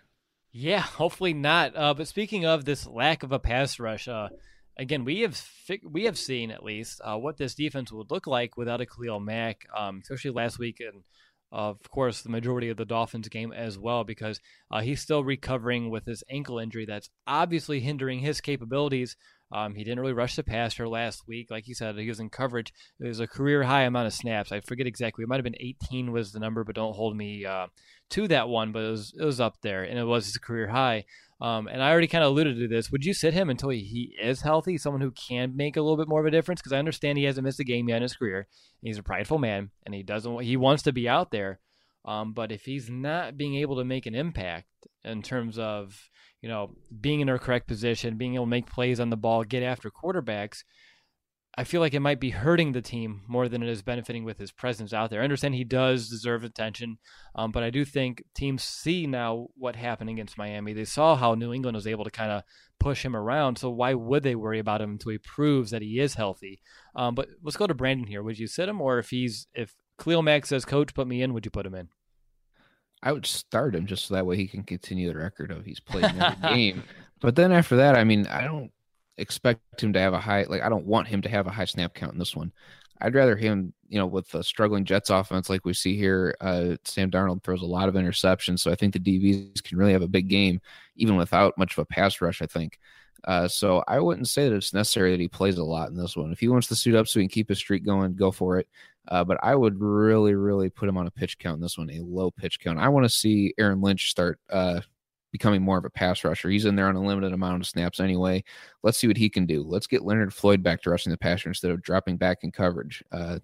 Yeah, hopefully not. But speaking of this lack of a pass rush, again, we have seen at least what this defense would look like without a Khalil Mack, especially last week, and of course the majority of the Dolphins game as well, because he's still recovering with his ankle injury that's obviously hindering his capabilities. He didn't really rush the passer last week. Like you said, he was in coverage. It was a career high amount of snaps. I forget exactly. It might have been 18 was the number, but don't hold me to that one. But it was up there, and it was his career high. And I already kind of alluded to this. Would you sit him until he is healthy, someone who can make a little bit more of a difference? Because I understand he hasn't missed a game yet in his career. He's a prideful man, and he wants to be out there. But if he's not being able to make an impact in terms of, being in her correct position, being able to make plays on the ball, get after quarterbacks, I feel like it might be hurting the team more than it is benefiting with his presence out there. I understand he does deserve attention, but I do think teams see now what happened against Miami. They saw how New England was able to kind of push him around, so why would they worry about him until he proves that he is healthy? But let's go to Brandon here. Would you sit him, or if Khalil Mack says, "Coach, put me in," would you put him in? I would start him just so that way he can continue the record of he's played in every game. But then after that, I don't expect him to have I don't want him to have a high snap count in this one. I'd rather him, with the struggling Jets offense like we see here, Sam Darnold throws a lot of interceptions, so I think the DBs can really have a big game even without much of a pass rush, I think. So I wouldn't say that it's necessary that he plays a lot in this one. If he wants to suit up so he can keep his streak going, go for it. But I would really, really put him on a pitch count in this one, a low pitch count. I want to see Aaron Lynch start becoming more of a pass rusher. He's in there on a limited amount of snaps anyway. Let's see what he can do. Let's get Leonard Floyd back to rushing the passer instead of dropping back in coverage.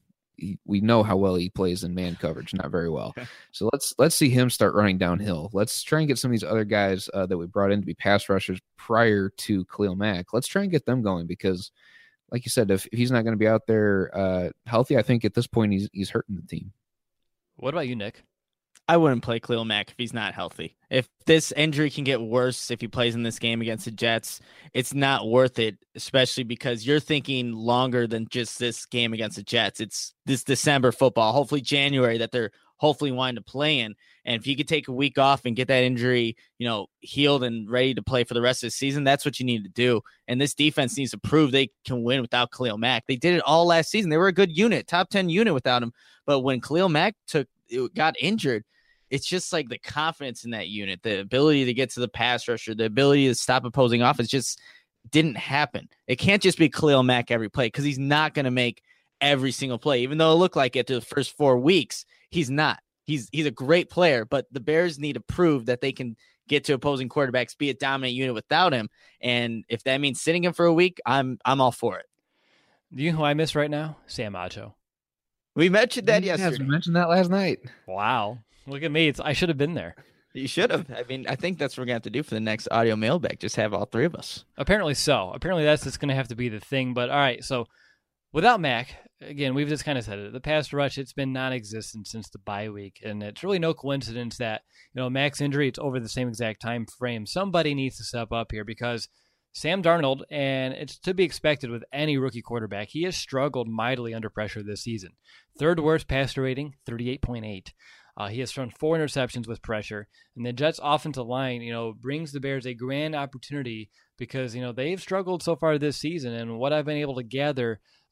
We know how well he plays in man coverage, not very well. So let's see him start running downhill. Let's try and get some of these other guys that we brought in to be pass rushers prior to Khalil Mack. Let's try and get them going because, like you said, if he's not going to be out there healthy, I think at this point he's hurting the team. What about you, Nick? I wouldn't play Khalil Mack if he's not healthy. If this injury can get worse if he plays in this game against the Jets, it's not worth it, especially because you're thinking longer than just this game against the Jets. It's this December football, hopefully January, that they're hopefully wanting to play in. And if you could take a week off and get that injury, healed and ready to play for the rest of the season, that's what you need to do. And this defense needs to prove they can win without Khalil Mack. They did it all last season. They were a good unit, top 10 unit without him. But when Khalil Mack got injured, it's just like the confidence in that unit, the ability to get to the pass rusher, the ability to stop opposing offense just didn't happen. It can't just be Khalil Mack every play because he's not going to make every single play. Even though it looked like it through the first 4 weeks, he's not. He's a great player, but the Bears need to prove that they can get to opposing quarterbacks, be a dominant unit without him. And if that means sitting him for a week, I'm all for it. Do you know who I miss right now? Sam Acho. We mentioned that yesterday. Yes, we mentioned that last night. Wow. Look at me. I should have been there. You should have. I think that's what we're going to have to do for the next audio mailbag. Just have all 3 of us. Apparently so. Apparently that's just going to have to be the thing. But all right, so without Mac, again, we've just kind of said it. The pass rush, it's been non-existent since the bye week. And it's really no coincidence that, Mac's injury, it's over the same exact time frame. Somebody needs to step up here because Sam Darnold, and it's to be expected with any rookie quarterback, he has struggled mightily under pressure this season. 3rd worst passer rating, 38.8. He has thrown 4 interceptions with pressure, and the Jets' offensive line, brings the Bears a grand opportunity because, they've struggled so far this season. And what I've been able to gather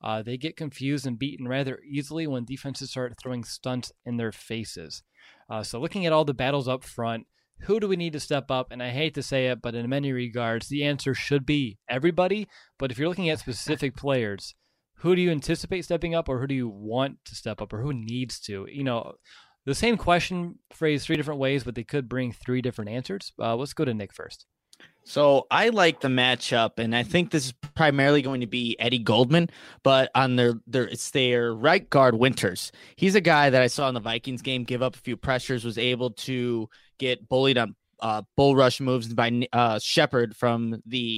they get confused and beaten rather easily when defenses start throwing stunts in their faces. So looking at all the battles up front, who do we need to step up? And I hate to say it, but in many regards, the answer should be everybody. But if you're looking at specific players, who do you anticipate stepping up, or who do you want to step up, or who needs to? The same question phrased 3 different ways, but they could bring 3 different answers. Let's go to Nick first. So I like the matchup, and I think this is primarily going to be Eddie Goldman, but on it's their right guard, Winters. He's a guy that I saw in the Vikings game give up a few pressures, was able to get bullied on bull rush moves by Shepard from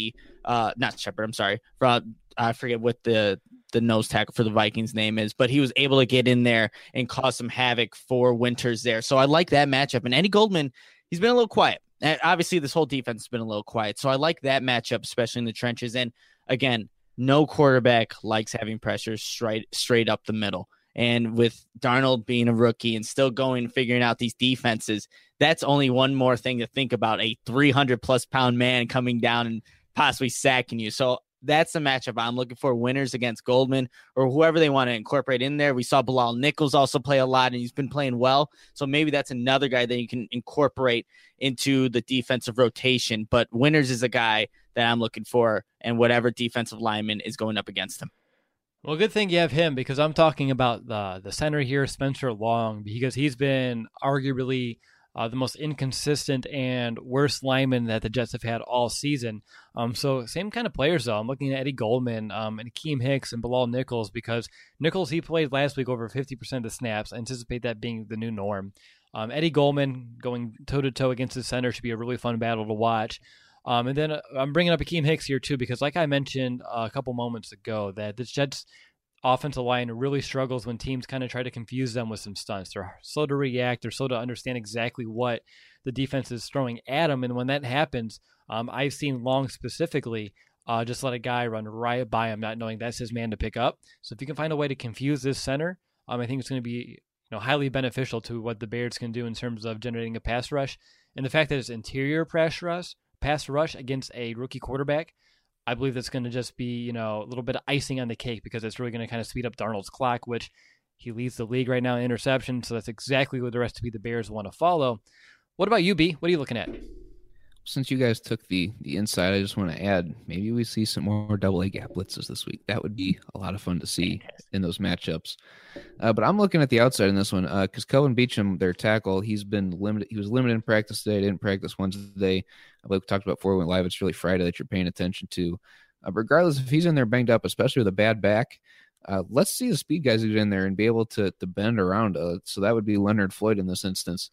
not Shepard, I'm sorry, from I forget what the nose tackle for the Vikings name is, but he was able to get in there and cause some havoc for Winters there. So I like that matchup. And Eddie Goldman, he's been a little quiet. And obviously, this whole defense has been a little quiet. So I like that matchup, especially in the trenches. And again, no quarterback likes having pressure straight up the middle. And with Darnold being a rookie and still figuring out these defenses, that's only one more thing to think about, a 300-plus pound man coming down and possibly sacking you. So that's the matchup I'm looking for, Winters against Goldman or whoever they want to incorporate in there. We saw Bilal Nichols also play a lot, and he's been playing well. So maybe that's another guy that you can incorporate into the defensive rotation. But Winters is a guy that I'm looking for, and whatever defensive lineman is going up against him. Well, good thing you have him, because I'm talking about the center here, Spencer Long, because he's been arguably the most inconsistent and worst lineman that the Jets have had all season. So same kind of players, though. I'm looking at Eddie Goldman and Akeem Hicks and Bilal Nichols, because Nichols, he played last week over 50% of the snaps. I anticipate that being the new norm. Eddie Goldman going toe-to-toe against the center should be a really fun battle to watch. And then I'm bringing up Akeem Hicks here, too, because like I mentioned a couple moments ago, that the Jets offensive line really struggles when teams kind of try to confuse them with some stunts. They're slow to react. They're slow to understand exactly what the defense is throwing at them. And when that happens, I've seen Long specifically just let a guy run right by him, not knowing that's his man to pick up. So if you can find a way to confuse this center, I think it's going to be highly beneficial to what the Bears can do in terms of generating a pass rush. And the fact that it's interior pass rush against a rookie quarterback, I believe that's going to just be, a little bit of icing on the cake, because it's really going to kind of speed up Darnold's clock, which he leads the league right now in interception. So that's exactly what the rest of the Bears want to follow. What about you, B? What are you looking at? Since you guys took the inside, I just want to add, maybe we see some more double-A gap blitzes this week. That would be a lot of fun to see in those matchups. But I'm looking at the outside in this one, because Kelvin Beachum, their tackle, he's been limited. He was limited in practice today. Didn't practice Wednesday. Like we talked about before we went live, it's really Friday that you're paying attention to. Regardless if he's in there banged up, especially with a bad back, let's see the speed guys get in there and be able to bend around. So that would be Leonard Floyd in this instance.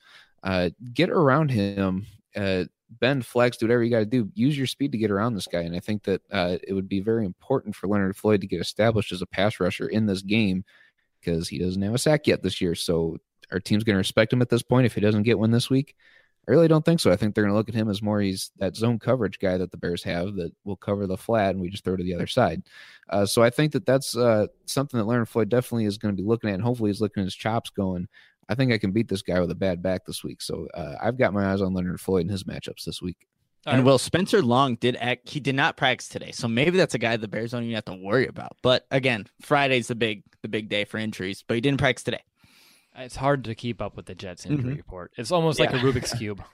Get around him, bend, flex, do whatever you got to do. Use your speed to get around this guy. And I think that it would be very important for Leonard Floyd to get established as a pass rusher in this game, because he doesn't have a sack yet this year. So our team's going to respect him at this point if he doesn't get one this week. I really don't think so. I think they're going to look at him as more he's that zone coverage guy that the Bears have that will cover the flat and we just throw to the other side. So I think that that's something that Leonard Floyd definitely is going to be looking at, and hopefully he's looking at his chops going, I think I can beat this guy with a bad back this week. So I've got my eyes on Leonard Floyd and his matchups this week. And Will, Spencer Long did not practice today. So maybe that's a guy the Bears don't even have to worry about. But again, Friday's the big day for injuries, but he didn't practice today. It's hard to keep up with the Jets injury report. It's almost like a Rubik's Cube.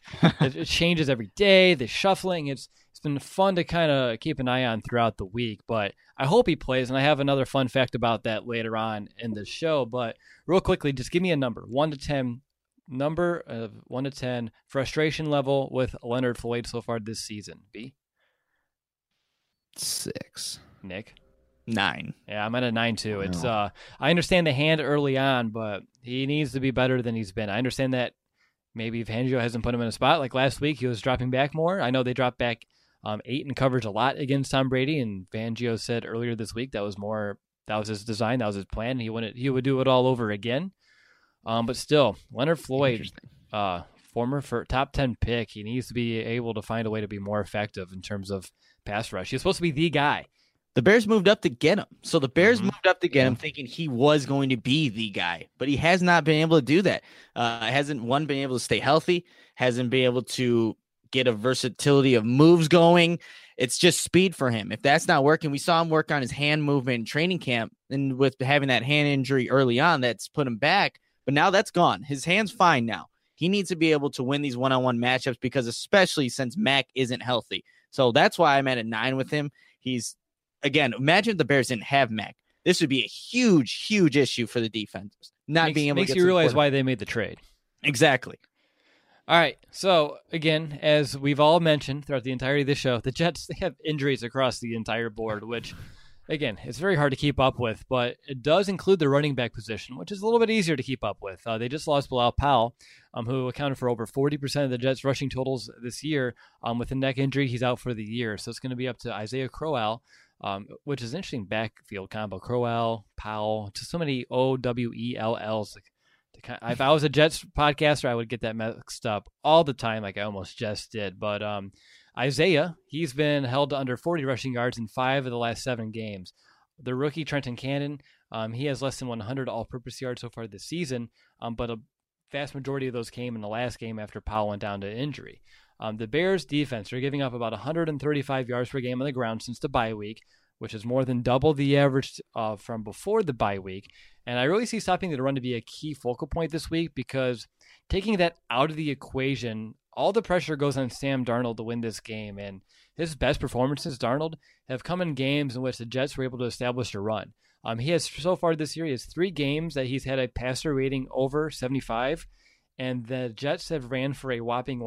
It changes every day. The shuffling. It's been fun to kind of keep an eye on throughout the week, but I hope he plays. And I have another fun fact about that later on in the show. But real quickly, just give me a number, 1 to 10. Number of 1 to 10 frustration level with Leonard Floyd so far this season. B? 6. Nick? 9. Yeah, I'm at a 9 too. It's I understand the hand early on, but he needs to be better than he's been. I understand that maybe Fangio hasn't put him in a spot. Like last week, he was dropping back more. I know they dropped back 8 in coverage a lot against Tom Brady, and Fangio said earlier this week that was his design, that was his plan. He would do it all over again. But still, Leonard Floyd, former top 10 pick, he needs to be able to find a way to be more effective in terms of pass rush. He's supposed to be the guy. The Bears moved up to get him. So the Bears moved up to get him thinking he was going to be the guy, but he has not been able to do that. Hasn't been able to stay healthy, hasn't been able to get a versatility of moves going. It's just speed for him. If that's not working, we saw him work on his hand movement in training camp, and with having that hand injury early on, that's put him back. But now that's gone. His hand's fine now. He needs to be able to win these one-on-one matchups, because especially since Mac isn't healthy. So that's why I'm at a 9 with him. He's, again, imagine if the Bears didn't have Mac. This would be a huge, huge issue for the defense. Makes you realize why they made the trade. Exactly. All right. So, again, as we've all mentioned throughout the entirety of the show, the Jets, they have injuries across the entire board, which, again, it's very hard to keep up with, but it does include the running back position, which is a little bit easier to keep up with. They just lost Bilal Powell, who accounted for over 40% of the Jets' rushing totals this year. With a neck injury, he's out for the year. So it's going to be up to Isaiah Crowell, which is an interesting backfield combo. Crowell, Powell, just so many OWELLs. If I was a Jets podcaster, I would get that mixed up all the time, like I almost just did. But Isaiah, he's been held to under 40 rushing yards in 5 of the last 7 games. The rookie Trenton Cannon, he has less than 100 all-purpose yards so far this season, but a vast majority of those came in the last game after Powell went down to injury. The Bears defense are giving up about 135 yards per game on the ground since the bye week, which is more than double the average from before the bye week. And I really see stopping the run to be a key focal point this week, because taking that out of the equation, all the pressure goes on Sam Darnold to win this game. And his best performances, Darnold, have come in games in which the Jets were able to establish a run. He has, so far this year, he has 3 games that he's had a passer rating over 75, and the Jets have ran for a whopping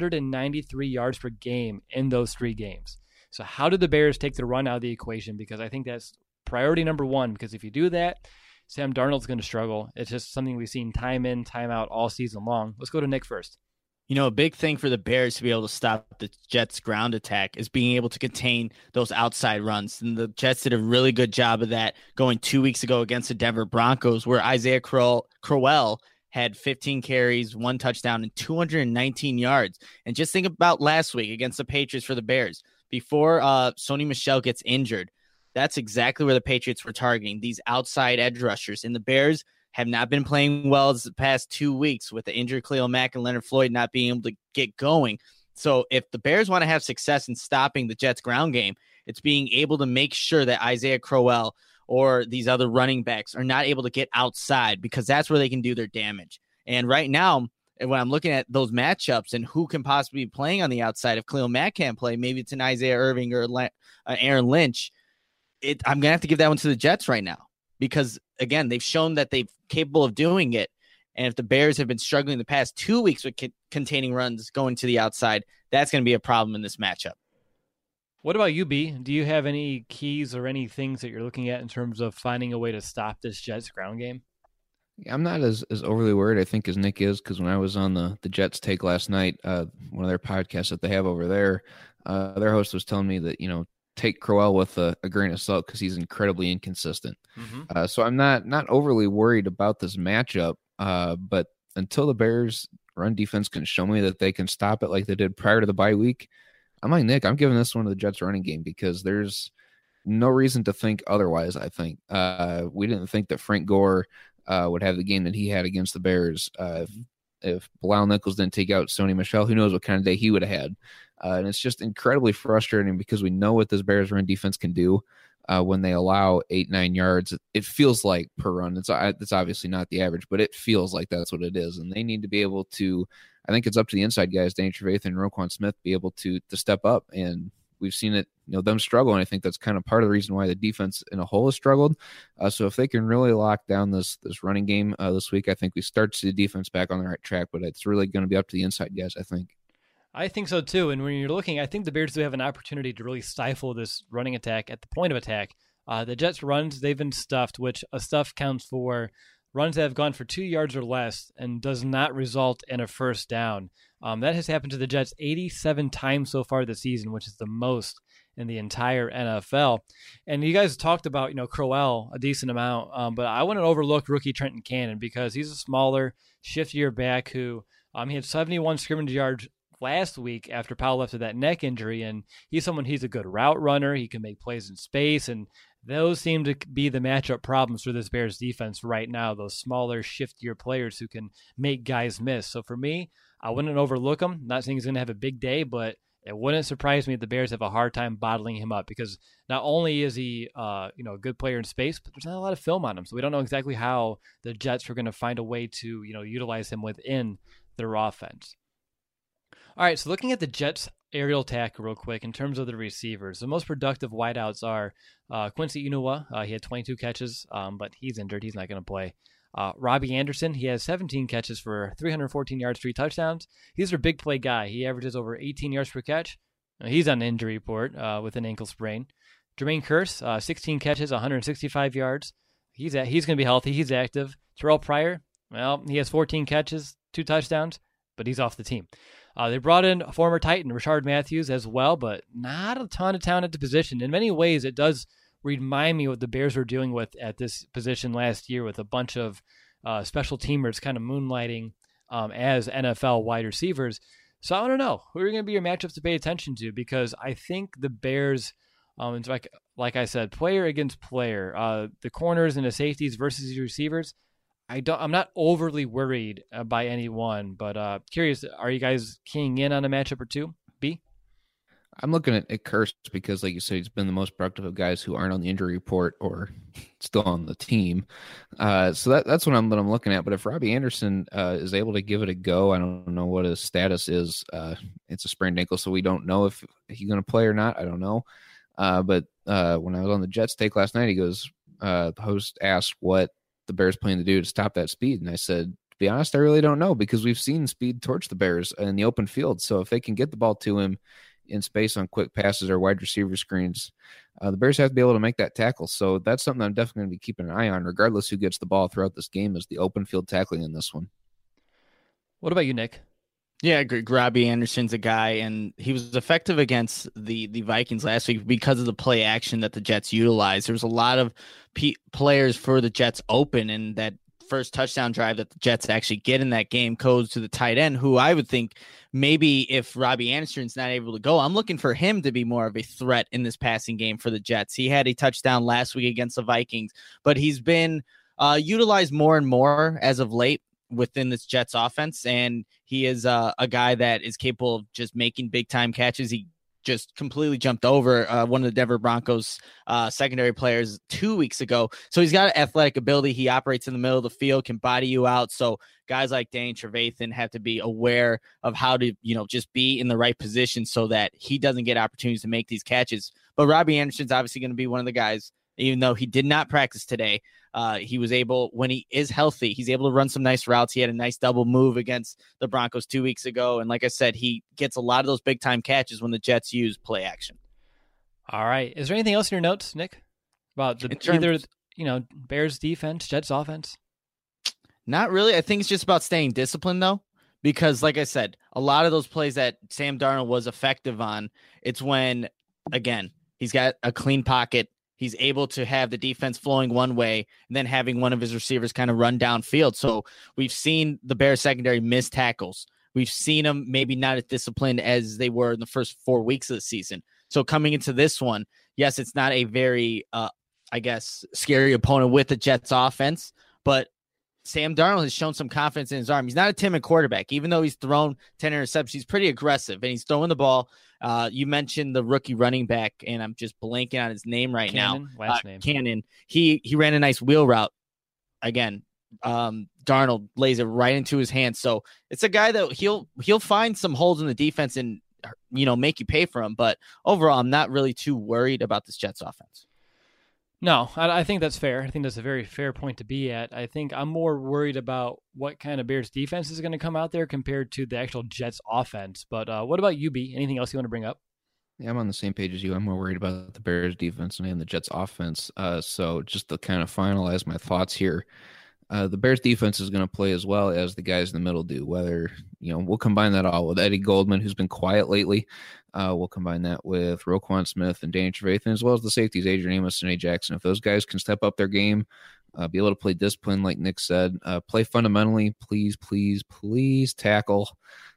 193 yards per game in those 3 games. So how do the Bears take the run out of the equation? Because I think that's priority number 1, because if you do that, Sam Darnold's going to struggle. It's just something we've seen time in, time out all season long. Let's go to Nick first. You know, a big thing for the Bears to be able to stop the Jets' ground attack is being able to contain those outside runs. And the Jets did a really good job of that going 2 weeks ago against the Denver Broncos, where Isaiah Crowell had 15 carries, 1 touchdown, and 219 yards. And just think about last week against the Patriots for the Bears. Before Sony Michel gets injured, that's exactly where the Patriots were targeting, these outside edge rushers. And the Bears have not been playing well the past 2 weeks with the injured Khalil Mack and Leonard Floyd not being able to get going. So if the Bears want to have success in stopping the Jets' ground game, it's being able to make sure that Isaiah Crowell or these other running backs are not able to get outside, because that's where they can do their damage. And right now, when I'm looking at those matchups and who can possibly be playing on the outside, if Khalil Mack can't play, maybe it's an Isaiah Irving or Aaron Lynch. I'm going to have to give that one to the Jets right now, because, again, they've shown that they're capable of doing it. And if the Bears have been struggling the past 2 weeks with containing runs going to the outside, that's going to be a problem in this matchup. What about you, B? Do you have any keys or any things that you're looking at in terms of finding a way to stop this Jets ground game? I'm not as overly worried, I think, as Nick is, because when I was on the Jets Take last night, one of their podcasts that they have over there, their host was telling me that, take Crowell with a grain of salt, because he's incredibly inconsistent. Mm-hmm. So I'm not overly worried about this matchup, but until the Bears run defense can show me that they can stop it like they did prior to the bye week, I'm like Nick, I'm giving this one to the Jets running game, because there's no reason to think otherwise, I think. We didn't think that Frank Gore would have the game that he had against the Bears. If Bilal Nichols didn't take out Sony Michel, who knows what kind of day he would have had. And it's just incredibly frustrating, because we know what this Bears run defense can do when they allow 8-9 yards. It feels like per run. It's obviously not the average, but it feels like that's what it is. And they need to be able to, I think it's up to the inside guys, Danny Trevathan and Roquan Smith, be able to step up. And we've seen it, them struggle. And I think that's kind of part of the reason why the defense in a whole has struggled. So if they can really lock down this running game this week, I think we start to see the defense back on the right track. But it's really going to be up to the inside guys, I think. I think so too. And when you're looking, I think the Bears do have an opportunity to really stifle this running attack at the point of attack. The Jets' runs, they've been stuffed, which a stuff counts for runs that have gone for 2 yards or less and does not result in a first down. That has happened to the Jets 87 times so far this season, which is the most in the entire NFL. And you guys talked about, Crowell a decent amount, but I wouldn't overlook rookie Trenton Cannon, because he's a smaller, shiftier back who he had 71 scrimmage yards last week after Powell left with that neck injury, and he's a good route runner. He can make plays in space, and those seem to be the matchup problems for this Bears defense right now, those smaller, shiftier players who can make guys miss. So for me, I wouldn't overlook him. Not saying he's going to have a big day, but it wouldn't surprise me if the Bears have a hard time bottling him up, because not only is he a good player in space, but there's not a lot of film on him. So we don't know exactly how the Jets are going to find a way to utilize him within their offense. All right, so looking at the Jets aerial attack real quick in terms of the receivers, the most productive wideouts are Quincy Enunwa. He had 22 catches, but he's injured. He's not going to play. Robbie Anderson, he has 17 catches for 314 yards, 3 touchdowns. He's their big play guy. He averages over 18 yards per catch. He's on the injury report with an ankle sprain. Jermaine Kearse, 16 catches, 165 yards. He's going to be healthy. He's active. Terrell Pryor, well, he has 14 catches, 2 touchdowns, but he's off the team. They brought in a former Titan, Rishard Matthews, as well, but not a ton of talent at the position. In many ways, it does remind me what the Bears were dealing with at this position last year, with a bunch of special teamers kind of moonlighting as NFL wide receivers. So I don't know who are going to be your matchups to pay attention to, because I think the Bears, like I said, player against player, the corners and the safeties versus the receivers, I'm not overly worried by any one, but curious, are you guys keying in on a matchup or two? B? I'm looking at Kearse because, like you said, he's been the most productive of guys who aren't on the injury report or still on the team. So that's what I'm looking at. But if Robbie Anderson is able to give it a go, I don't know what his status is. It's a sprained ankle, so we don't know if he's going to play or not. I don't know. But when I was on the Jets take last night, he goes, the host asked what the Bears plan to do to stop that speed. And I said, to be honest, I really don't know, because we've seen speed torch the Bears in the open field. So if they can get the ball to him in space on quick passes or wide receiver screens, the Bears have to be able to make that tackle. So that's something I'm definitely going to be keeping an eye on, regardless who gets the ball throughout this game, is the open field tackling in this one. What about you, Nick? Yeah, I agree. Robbie Anderson's a guy, and he was effective against the Vikings last week because of the play action that the Jets utilized. There was a lot of players for the Jets open, and that first touchdown drive that the Jets actually get in that game goes to the tight end, who I would think maybe if Robbie Anderson's not able to go, I'm looking for him to be more of a threat in this passing game for the Jets. He had a touchdown last week against the Vikings, but he's been utilized more and more as of late within this Jets offense, and he is a guy that is capable of just making big time catches. He just completely jumped over one of the Denver Broncos secondary players 2 weeks ago. So he's got athletic ability. He operates in the middle of the field, can body you out. So guys like Danny Trevathan have to be aware of how to, just be in the right position so that he doesn't get opportunities to make these catches. But Robbie Anderson's obviously going to be one of the guys, even though he did not practice today. He was able, when he is healthy, he's able to run some nice routes. He had a nice double move against the Broncos 2 weeks ago. And like I said, he gets a lot of those big time catches when the Jets use play action. All right. Is there anything else in your notes, Nick, about Bears defense, Jets offense? Not really. I think it's just about staying disciplined, though, because like I said, a lot of those plays that Sam Darnold was effective on, it's when, again, he's got a clean pocket. He's able to have the defense flowing one way and then having one of his receivers kind of run downfield. So we've seen the Bears secondary miss tackles. We've seen them maybe not as disciplined as they were in the first 4 weeks of the season. So coming into this one, yes, it's not a very, scary opponent with the Jets offense, but Sam Darnold has shown some confidence in his arm. He's not a timid quarterback. Even though he's thrown 10 interceptions, he's pretty aggressive, and he's throwing the ball. You mentioned the rookie running back, and I'm just blanking on his name right now. Last name. Cannon. He ran a nice wheel route. Again, Darnold lays it right into his hands. So it's a guy that he'll find some holes in the defense and make you pay for him. But overall, I'm not really too worried about this Jets offense. No, I think that's fair. I think that's a very fair point to be at. I think I'm more worried about what kind of Bears defense is going to come out there compared to the actual Jets offense. But what about you, B? Anything else you want to bring up? Yeah, I'm on the same page as you. I'm more worried about the Bears defense and the Jets offense. So just to kind of finalize my thoughts here, the Bears defense is going to play as well as the guys in the middle do. Whether, we'll combine that all with Eddie Goldman, who's been quiet lately. We'll combine that with Roquan Smith and Danny Trevathan, as well as the safeties, Adrian Amos and A. Jackson. If those guys can step up their game, be able to play discipline, like Nick said, play fundamentally, please tackle.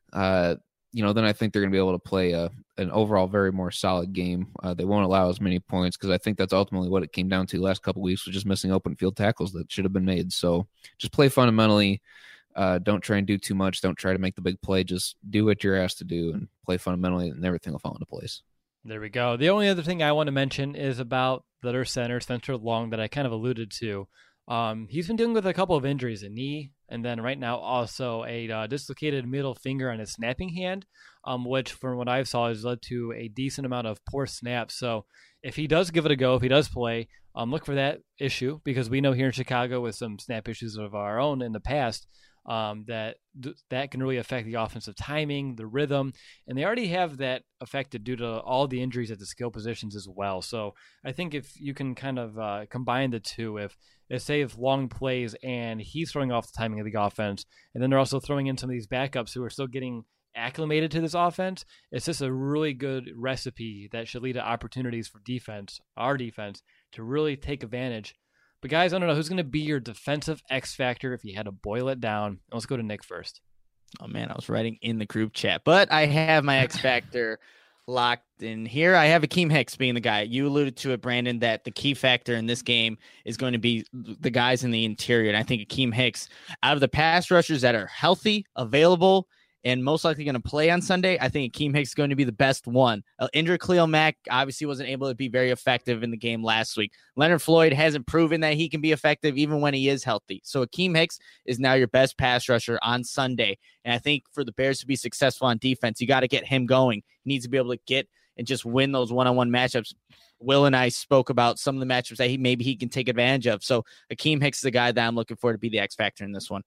Then I think they're going to be able to play an overall very more solid game. They won't allow as many points because I think that's ultimately what it came down to the last couple of weeks, was just missing open field tackles that should have been made. So just play fundamentally. Don't try and do too much. Don't try to make the big play. Just do what you're asked to do and play fundamentally, and everything will fall into place. There we go. The only other thing I want to mention is about their center, Spencer Long, that I kind of alluded to. He's been dealing with a couple of injuries, a knee, and then right now also a dislocated middle finger on his snapping hand, which from what I saw has led to a decent amount of poor snaps. So if he does give it a go, if he does play, look for that issue, because we know here in Chicago with some snap issues of our own in the past, that can really affect the offensive timing, the rhythm, and they already have that affected due to all the injuries at the skill positions as well. So I think if you can kind of combine the two, if Long plays and he's throwing off the timing of the offense, and then they're also throwing in some of these backups who are still getting acclimated to this offense, it's just a really good recipe that should lead to opportunities for our defense, to really take advantage. But guys, I don't know who's going to be your defensive X factor if you had to boil it down. Let's go to Nick first. Oh man, I was writing in the group chat, but I have my X factor locked in here. I have Akeem Hicks being the guy. You alluded to it, Brandon, that the key factor in this game is going to be the guys in the interior. And I think Akeem Hicks, out of the pass rushers that are healthy, available, and most likely going to play on Sunday, I think Akeem Hicks is going to be the best one. Injured Khalil Mack obviously wasn't able to be very effective in the game last week. Leonard Floyd hasn't proven that he can be effective even when he is healthy. So Akeem Hicks is now your best pass rusher on Sunday. And I think for the Bears to be successful on defense, you got to get him going. He needs to be able to get and just win those one-on-one matchups. Will and I spoke about some of the matchups that maybe he can take advantage of. So Akeem Hicks is the guy that I'm looking for to be the X factor in this one.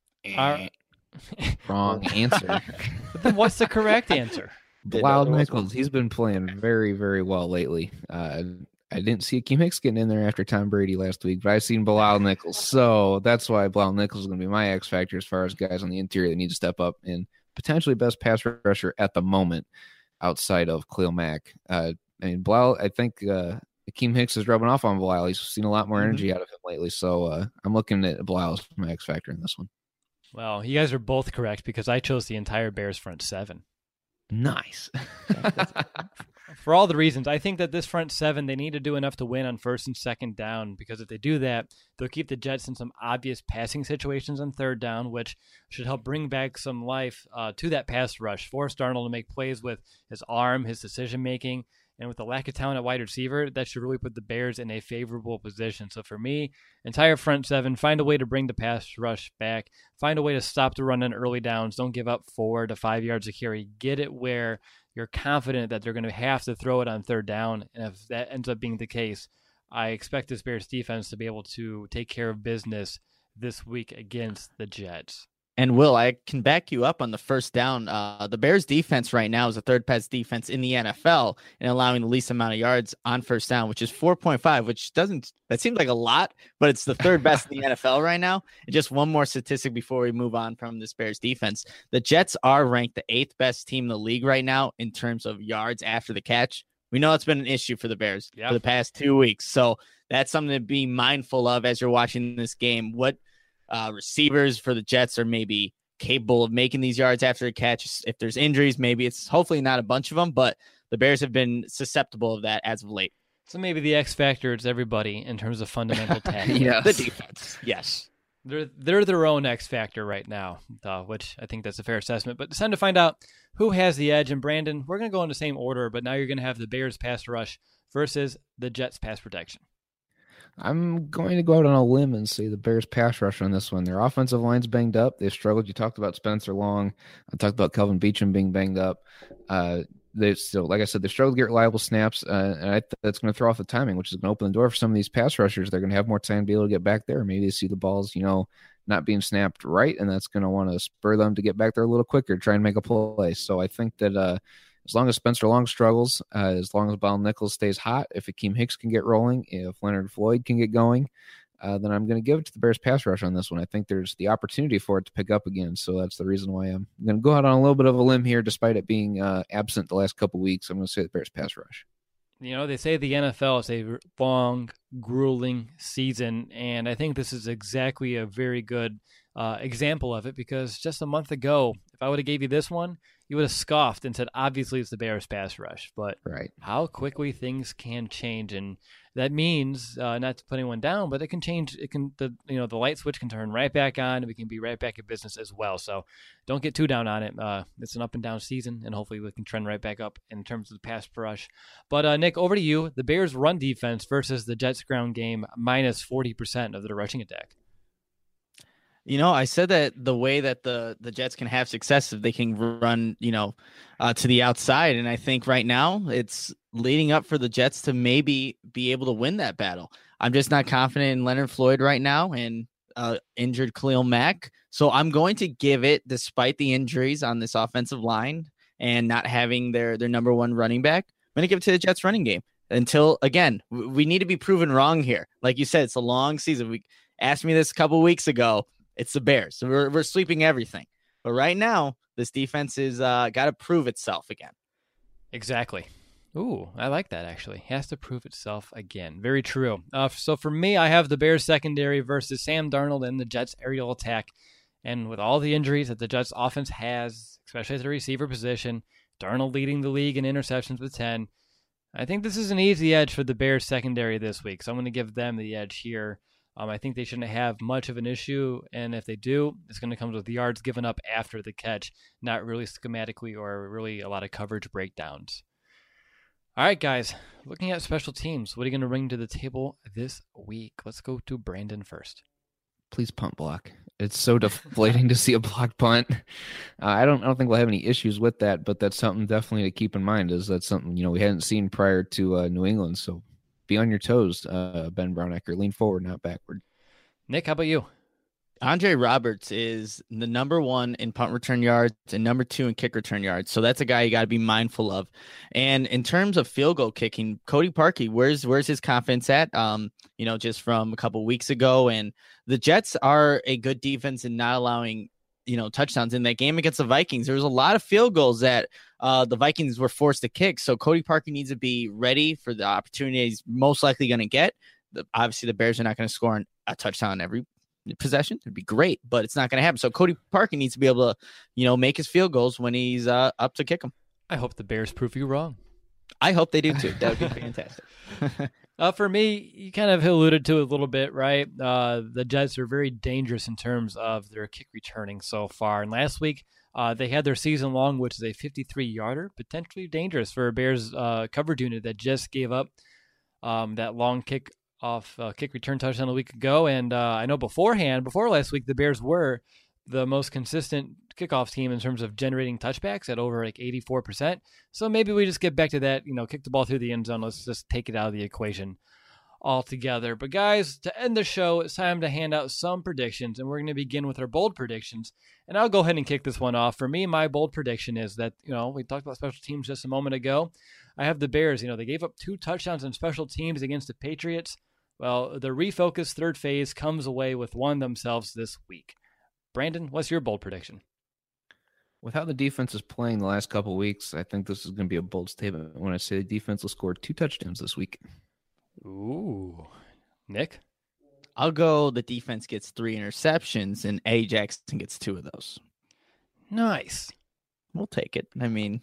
Wrong answer. But then what's the correct answer? Bilal Nichols. He's been playing very, very well lately. I didn't see Akeem Hicks getting in there after Tom Brady last week, but I've seen Bilal Nichols. So that's why Bilal Nichols is going to be my X factor as far as guys on the interior that need to step up, and potentially best pass rusher at the moment outside of Khalil Mack. Bilal, I think Akeem Hicks is rubbing off on Bilal. He's seen a lot more energy out of him lately. So I'm looking at Bilal as my X factor in this one. Well, you guys are both correct because I chose the entire Bears front seven. Nice. For all the reasons, I think that this front seven, they need to do enough to win on first and second down, because if they do that, they'll keep the Jets in some obvious passing situations on third down, which should help bring back some life to that pass rush. Force Darnold to make plays with his arm, his decision-making, and with the lack of talent at wide receiver, that should really put the Bears in a favorable position. So for me, entire front seven, find a way to bring the pass rush back. Find a way to stop the run in early downs. Don't give up 4 to 5 yards a carry. Get it where you're confident that they're going to have to throw it on third down. And if that ends up being the case, I expect this Bears defense to be able to take care of business this week against the Jets. And Will, I can back you up on the first down. The Bears defense right now is the third best defense in the NFL and allowing the least amount of yards on first down, which is 4.5, which that seems like a lot, but it's the third best in the NFL right now. And just one more statistic before we move on from this Bears defense. The Jets are ranked the 8th best team in the league right now in terms of yards after the catch. We know it's been an issue for the Bears for the past 2 weeks. So that's something to be mindful of as you're watching this game. What receivers for the Jets are maybe capable of making these yards after a catch? If there's injuries, maybe it's hopefully not a bunch of them, but the Bears have been susceptible of that as of late. So maybe the X factor is everybody in terms of fundamental tackling. The defense. Yes. They're their own X factor right now, which I think that's a fair assessment. But it's time to find out who has the edge. And Brandon, we're going to go in the same order, but now you're going to have the Bears pass rush versus the Jets pass protection. I'm going to go out on a limb and say the Bears pass rush on this one. Their offensive line's banged up. They've struggled. You talked about Spencer Long. I talked about Kelvin Beachum being banged up. They still, like I said, they struggle to get reliable snaps, and that's going to throw off the timing, which is going to open the door for some of these pass rushers. They're going to have more time to be able to get back there. Maybe they see the balls, not being snapped right, and that's going to want to spur them to get back there a little quicker, try and make a play. So I think that as long as Spencer Long struggles, as long as Bilal Nichols stays hot, if Akeem Hicks can get rolling, if Leonard Floyd can get going, then I'm going to give it to the Bears pass rush on this one. I think there's the opportunity for it to pick up again. So that's the reason why I'm going to go out on a little bit of a limb here, despite it being absent the last couple of weeks. I'm going to say the Bears pass rush. They say the NFL is a long, grueling season, and I think this is exactly a very good example of it, because just a month ago, If I would have gave you this one, you would have scoffed and said, obviously it's the Bears pass rush. But how quickly things can change. And that means, not to put anyone down, but it can change. The light switch can turn right back on, and we can be right back in business as well. So don't get too down on it. It's an up and down season, and hopefully we can trend right back up in terms of the pass rush. But Nick, over to you. The Bears run defense versus the Jets ground game, minus 40% of their rushing attack. I said that the way that the Jets can have success if they can run, to the outside. And I think right now it's leading up for the Jets to maybe be able to win that battle. I'm just not confident in Leonard Floyd right now and injured Khalil Mack. So I'm going to give it, despite the injuries on this offensive line and not having their number one running back, I'm going to give it to the Jets running game until, again, we need to be proven wrong here. Like you said, it's a long season. We asked me this a couple weeks ago. It's the Bears. So we're sweeping everything. But right now, this defense is got to prove itself again. Exactly. Ooh, I like that, actually. Has to prove itself again. Very true. So for me, I have the Bears secondary versus Sam Darnold and the Jets aerial attack. And with all the injuries that the Jets offense has, especially at the receiver position, Darnold leading the league in interceptions with 10, I think this is an easy edge for the Bears secondary this week. So I'm going to give them the edge here. I think they shouldn't have much of an issue, and if they do, it's going to come with yards given up after the catch, not really schematically or really a lot of coverage breakdowns. All right, guys, looking at special teams, what are you going to bring to the table this week? Let's go to Brandon first. Please punt block. It's so deflating to see a block punt. I don't think we'll have any issues with that, but that's something definitely to keep in mind. Is that something we hadn't seen prior to New England? So be on your toes, Ben Brownecker. Lean forward, not backward. Nick, how about you? Andre Roberts is the number one in punt return yards and number two in kick return yards. So that's a guy you got to be mindful of. And in terms of field goal kicking, Cody Parkey, where's his confidence at? Just from a couple weeks ago. And the Jets are a good defense in not allowing touchdowns. In that game against the Vikings, there was a lot of field goals that the Vikings were forced to kick. So Cody Parkey needs to be ready for the opportunity he's most likely going to get. Obviously, the Bears are not going to score a touchdown every possession. It'd be great, but it's not going to happen. So Cody Parkey needs to be able to, make his field goals when he's up to kick them. I hope the Bears prove you wrong. I hope they do too. That would be fantastic. For me, you kind of alluded to it a little bit, right? The Jets are very dangerous in terms of their kick returning so far. And last week, they had their season long, which is a 53-yarder, potentially dangerous for a Bears coverage unit that just gave up that long kick return touchdown a week ago. And I know before last week, the Bears were the most consistent kickoff team in terms of generating touchbacks at over 84%. So maybe we just get back to that, kick the ball through the end zone. Let's just take it out of the equation altogether. But guys, to end the show, it's time to hand out some predictions, and we're going to begin with our bold predictions. And I'll go ahead and kick this one off. For me, my bold prediction is that, we talked about special teams just a moment ago. I have the Bears, they gave up 2 touchdowns on special teams against the Patriots. Well, the refocused third phase comes away with one themselves this week. Brandon, what's your bold prediction? With how the defense is playing the last couple of weeks, I think this is going to be a bold statement when I say the defense will score 2 touchdowns this week. Ooh. Nick? I'll go the defense gets 3 interceptions and A. Jackson gets 2 of those. Nice. We'll take it. I mean...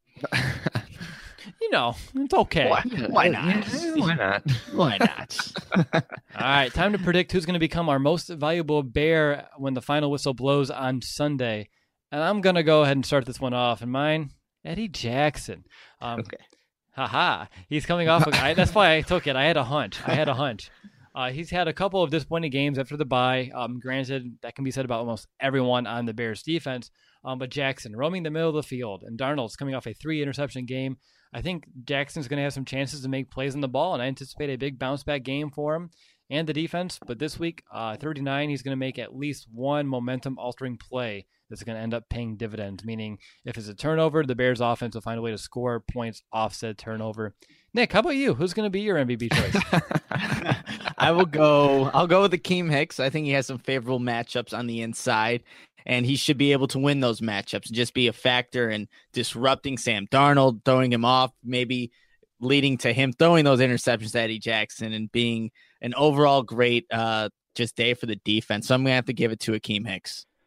it's okay. Why not? Why not? Why not? All right, time to predict who's going to become our most valuable Bear when the final whistle blows on Sunday. And I'm going to go ahead and start this one off. And mine, Eddie Jackson. Okay. Haha. He's coming off. That's why I took it. I had a hunch. He's had a couple of disappointing games after the bye. Granted, that can be said about almost everyone on the Bears defense. But Jackson roaming the middle of the field, and Darnold's coming off a 3-interception game. I think Jackson's going to have some chances to make plays on the ball, and I anticipate a big bounce-back game for him and the defense. But this week, 39, he's going to make at least one momentum-altering play that's going to end up paying dividends, meaning if it's a turnover, the Bears' offense will find a way to score points off said turnover. Nick, how about you? Who's going to be your MVP choice? I'll go with Akeem Hicks. I think he has some favorable matchups on the inside, and he should be able to win those matchups and just be a factor in disrupting Sam Darnold, throwing him off, maybe leading to him throwing those interceptions to Eddie Jackson and being an overall great just day for the defense. So I'm going to have to give it to Akeem Hicks.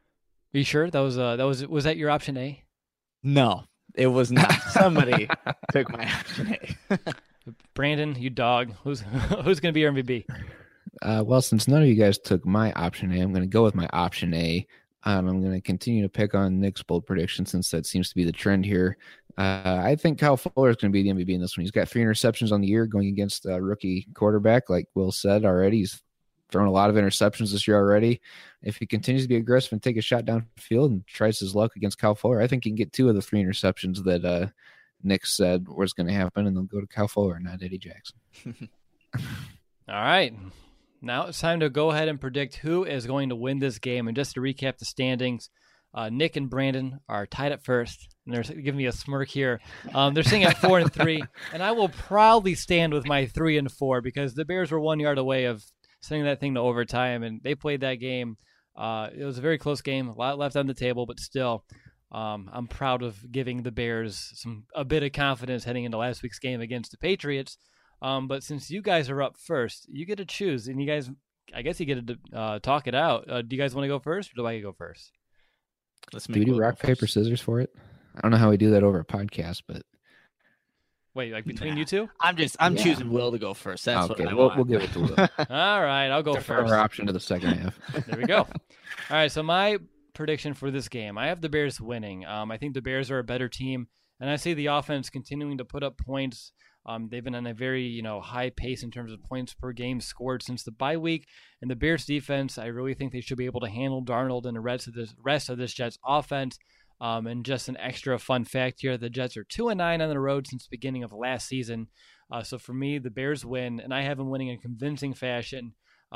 you sure that was that your option A? No, it was not. Somebody took my option A. Brandon, you dog. Who's going to be your MVP? Well, since none of you guys took my option A, I'm going to go with my option A. I'm going to continue to pick on Nick's bold prediction since that seems to be the trend here. I think Kyle Fuller is going to be the MVP in this one. He's got 3 interceptions on the year going against a rookie quarterback, like Will said already. He's thrown a lot of interceptions this year already. If he continues to be aggressive and take a shot downfield and tries his luck against Kyle Fuller, I think he can get 2 of the 3 interceptions that Nick said was going to happen, and they'll go to Kyle Fuller, not Eddie Jackson. All right. Now it's time to go ahead and predict who is going to win this game. And just to recap the standings, Nick and Brandon are tied at first, and they're giving me a smirk here. They're sitting at 4-3, and I will proudly stand with my 3-4 because the Bears were 1 yard away of sending that thing to overtime, and they played that game. It was a very close game, a lot left on the table, but still, I'm proud of giving the Bears a bit of confidence heading into last week's game against the Patriots. But since you guys are up first, you get to choose, and you guys, I guess you get to talk it out. Do you guys want to go first, or do I go first? Do we do rock, paper, scissors for it? I don't know how we do that over a podcast, but wait, like between you two? I'm choosing Will to go first. That's okay. What I want. We'll give it to Will. All right, I'll go first. Our option to the second half. There we go. All right, so my prediction for this game, I have the Bears winning. I think the Bears are a better team, and I see the offense continuing to put up points. They've been on a very, high pace in terms of points per game scored since the bye week. And the Bears defense, I really think they should be able to handle Darnold and the rest of this Jets offense. And just an extra fun fact here, the Jets are 2-9 on the road since the beginning of last season. So for me, the Bears win, and I have them winning in convincing fashion.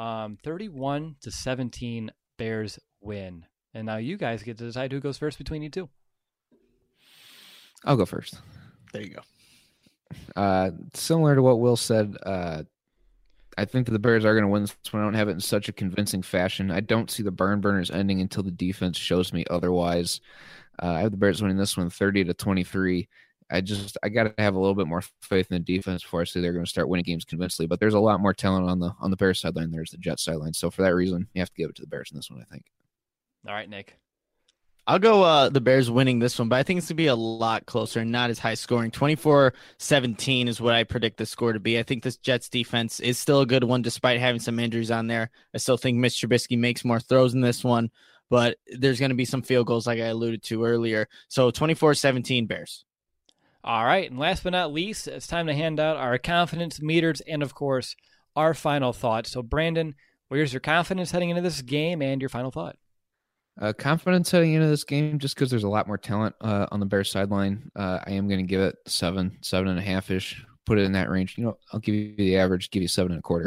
31-17, Bears win. And now you guys get to decide who goes first between you two. I'll go first. There you go. Similar to what Will said, I think that the Bears are going to win this one. I don't have it in such a convincing fashion. I don't see the barn burners ending until the defense shows me otherwise. I have the Bears winning this one 30-23. I got to have a little bit more faith in the defense before I say they're going to start winning games convincingly. But there's a lot more talent on the Bears sideline. There's the Jets sideline. So for that reason, you have to give it to the Bears in this one, I think. All right, Nick. I'll go the Bears winning this one, but I think it's going to be a lot closer and not as high scoring. 24-17 is what I predict the score to be. I think this Jets defense is still a good one despite having some injuries on there. I still think Mitch Trubisky makes more throws in this one, but there's going to be some field goals like I alluded to earlier. So 24-17 Bears. All right, and last but not least, it's time to hand out our confidence meters and, of course, our final thoughts. So, Brandon, where's your confidence heading into this game and your final thought? Confidence heading into this game, just because there's a lot more talent on the Bears sideline. I am going to give it 7.5-ish. Put it in that range. I'll give you the average. Give you 7.25.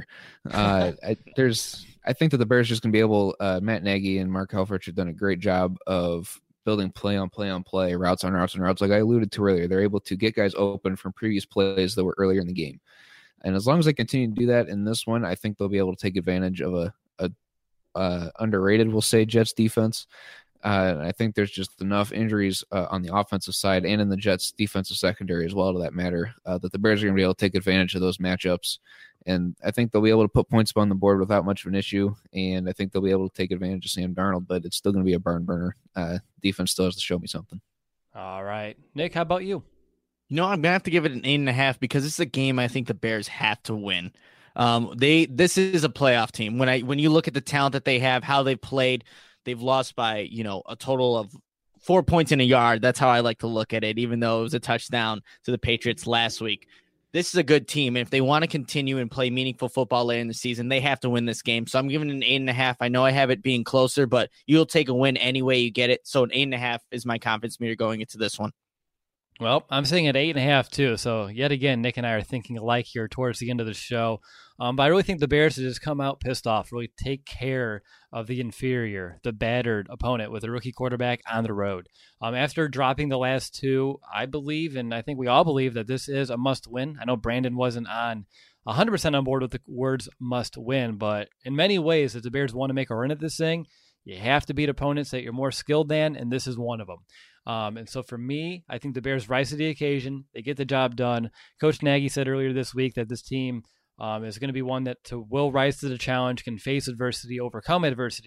I think that the Bears are just going to be able. Matt Nagy and Mark Helfrich have done a great job of building play on play on play, routes on routes on routes. Like I alluded to earlier, they're able to get guys open from previous plays that were earlier in the game. And as long as they continue to do that in this one, I think they'll be able to take advantage of a underrated, we'll say, Jets defense. I think there's just enough injuries on the offensive side and in the Jets defensive secondary as well, to that matter, that the Bears are going to be able to take advantage of those matchups. And I think they'll be able to put points on the board without much of an issue. And I think they'll be able to take advantage of Sam Darnold, but it's still going to be a barn burner. Defense still has to show me something. All right. Nick, how about you? I'm going to have to give it an 8.5 because this is a game I think the Bears have to win. This is a playoff team. When you look at the talent that they have, how they played, they've lost by, a total of 4 points in a yard. That's how I like to look at it, even though it was a touchdown to the Patriots last week. This is a good team. And if they want to continue and play meaningful football later in the season, they have to win this game. So I'm giving it an 8.5. I know I have it being closer, but you'll take a win any way you get it. So an 8.5 is my confidence meter going into this one. Well, I'm sitting at 8.5 too. So yet again, Nick and I are thinking alike here towards the end of the show. But I really think the Bears should just come out pissed off, really take care of the inferior, the battered opponent with a rookie quarterback on the road. After dropping the last two, I believe, and I think we all believe, that this is a must win. I know Brandon wasn't 100% on board with the words must win, but in many ways, if the Bears want to make a run at this thing, you have to beat opponents that you're more skilled than, and this is one of them. And so for me, I think the Bears rise to the occasion. They get the job done. Coach Nagy said earlier this week that this team is going to be one that will rise to the challenge, can face adversity, overcome adversity.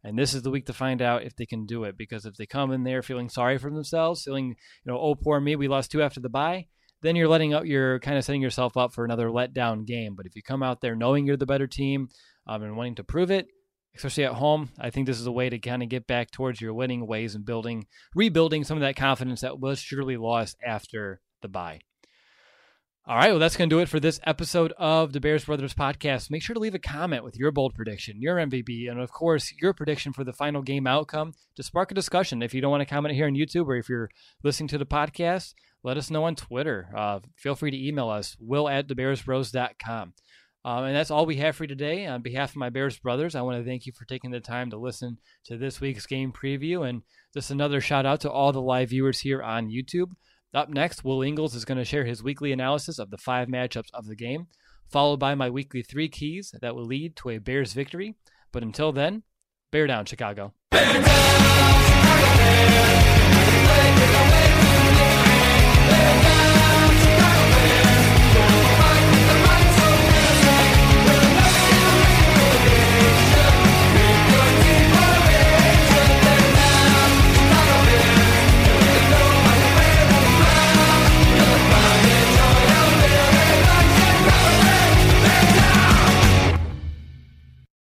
And this is the week to find out if they can do it, because if they come in there feeling sorry for themselves, feeling, oh, poor me, we lost 2 after the bye, then you're kind of setting yourself up for another letdown game. But if you come out there knowing you're the better team and wanting to prove it, especially at home, I think this is a way to kind of get back towards your winning ways and rebuilding some of that confidence that was surely lost after the bye. All right, well, that's going to do it for this episode of the Bears Brothers podcast. Make sure to leave a comment with your bold prediction, your MVP, and of course, your prediction for the final game outcome to spark a discussion. If you don't want to comment here on YouTube, or if you're listening to the podcast, let us know on Twitter. Feel free to email us, will@thebearsbros.com. And that's all we have for you today. On behalf of my Bears brothers, I want to thank you for taking the time to listen to this week's game preview. And just another shout out to all the live viewers here on YouTube. Up next, Will Ingles is going to share his weekly analysis of the 5 matchups of the game, followed by my weekly 3 keys that will lead to a Bears victory. But until then, bear down, Chicago. Bear down, Chicago Bears.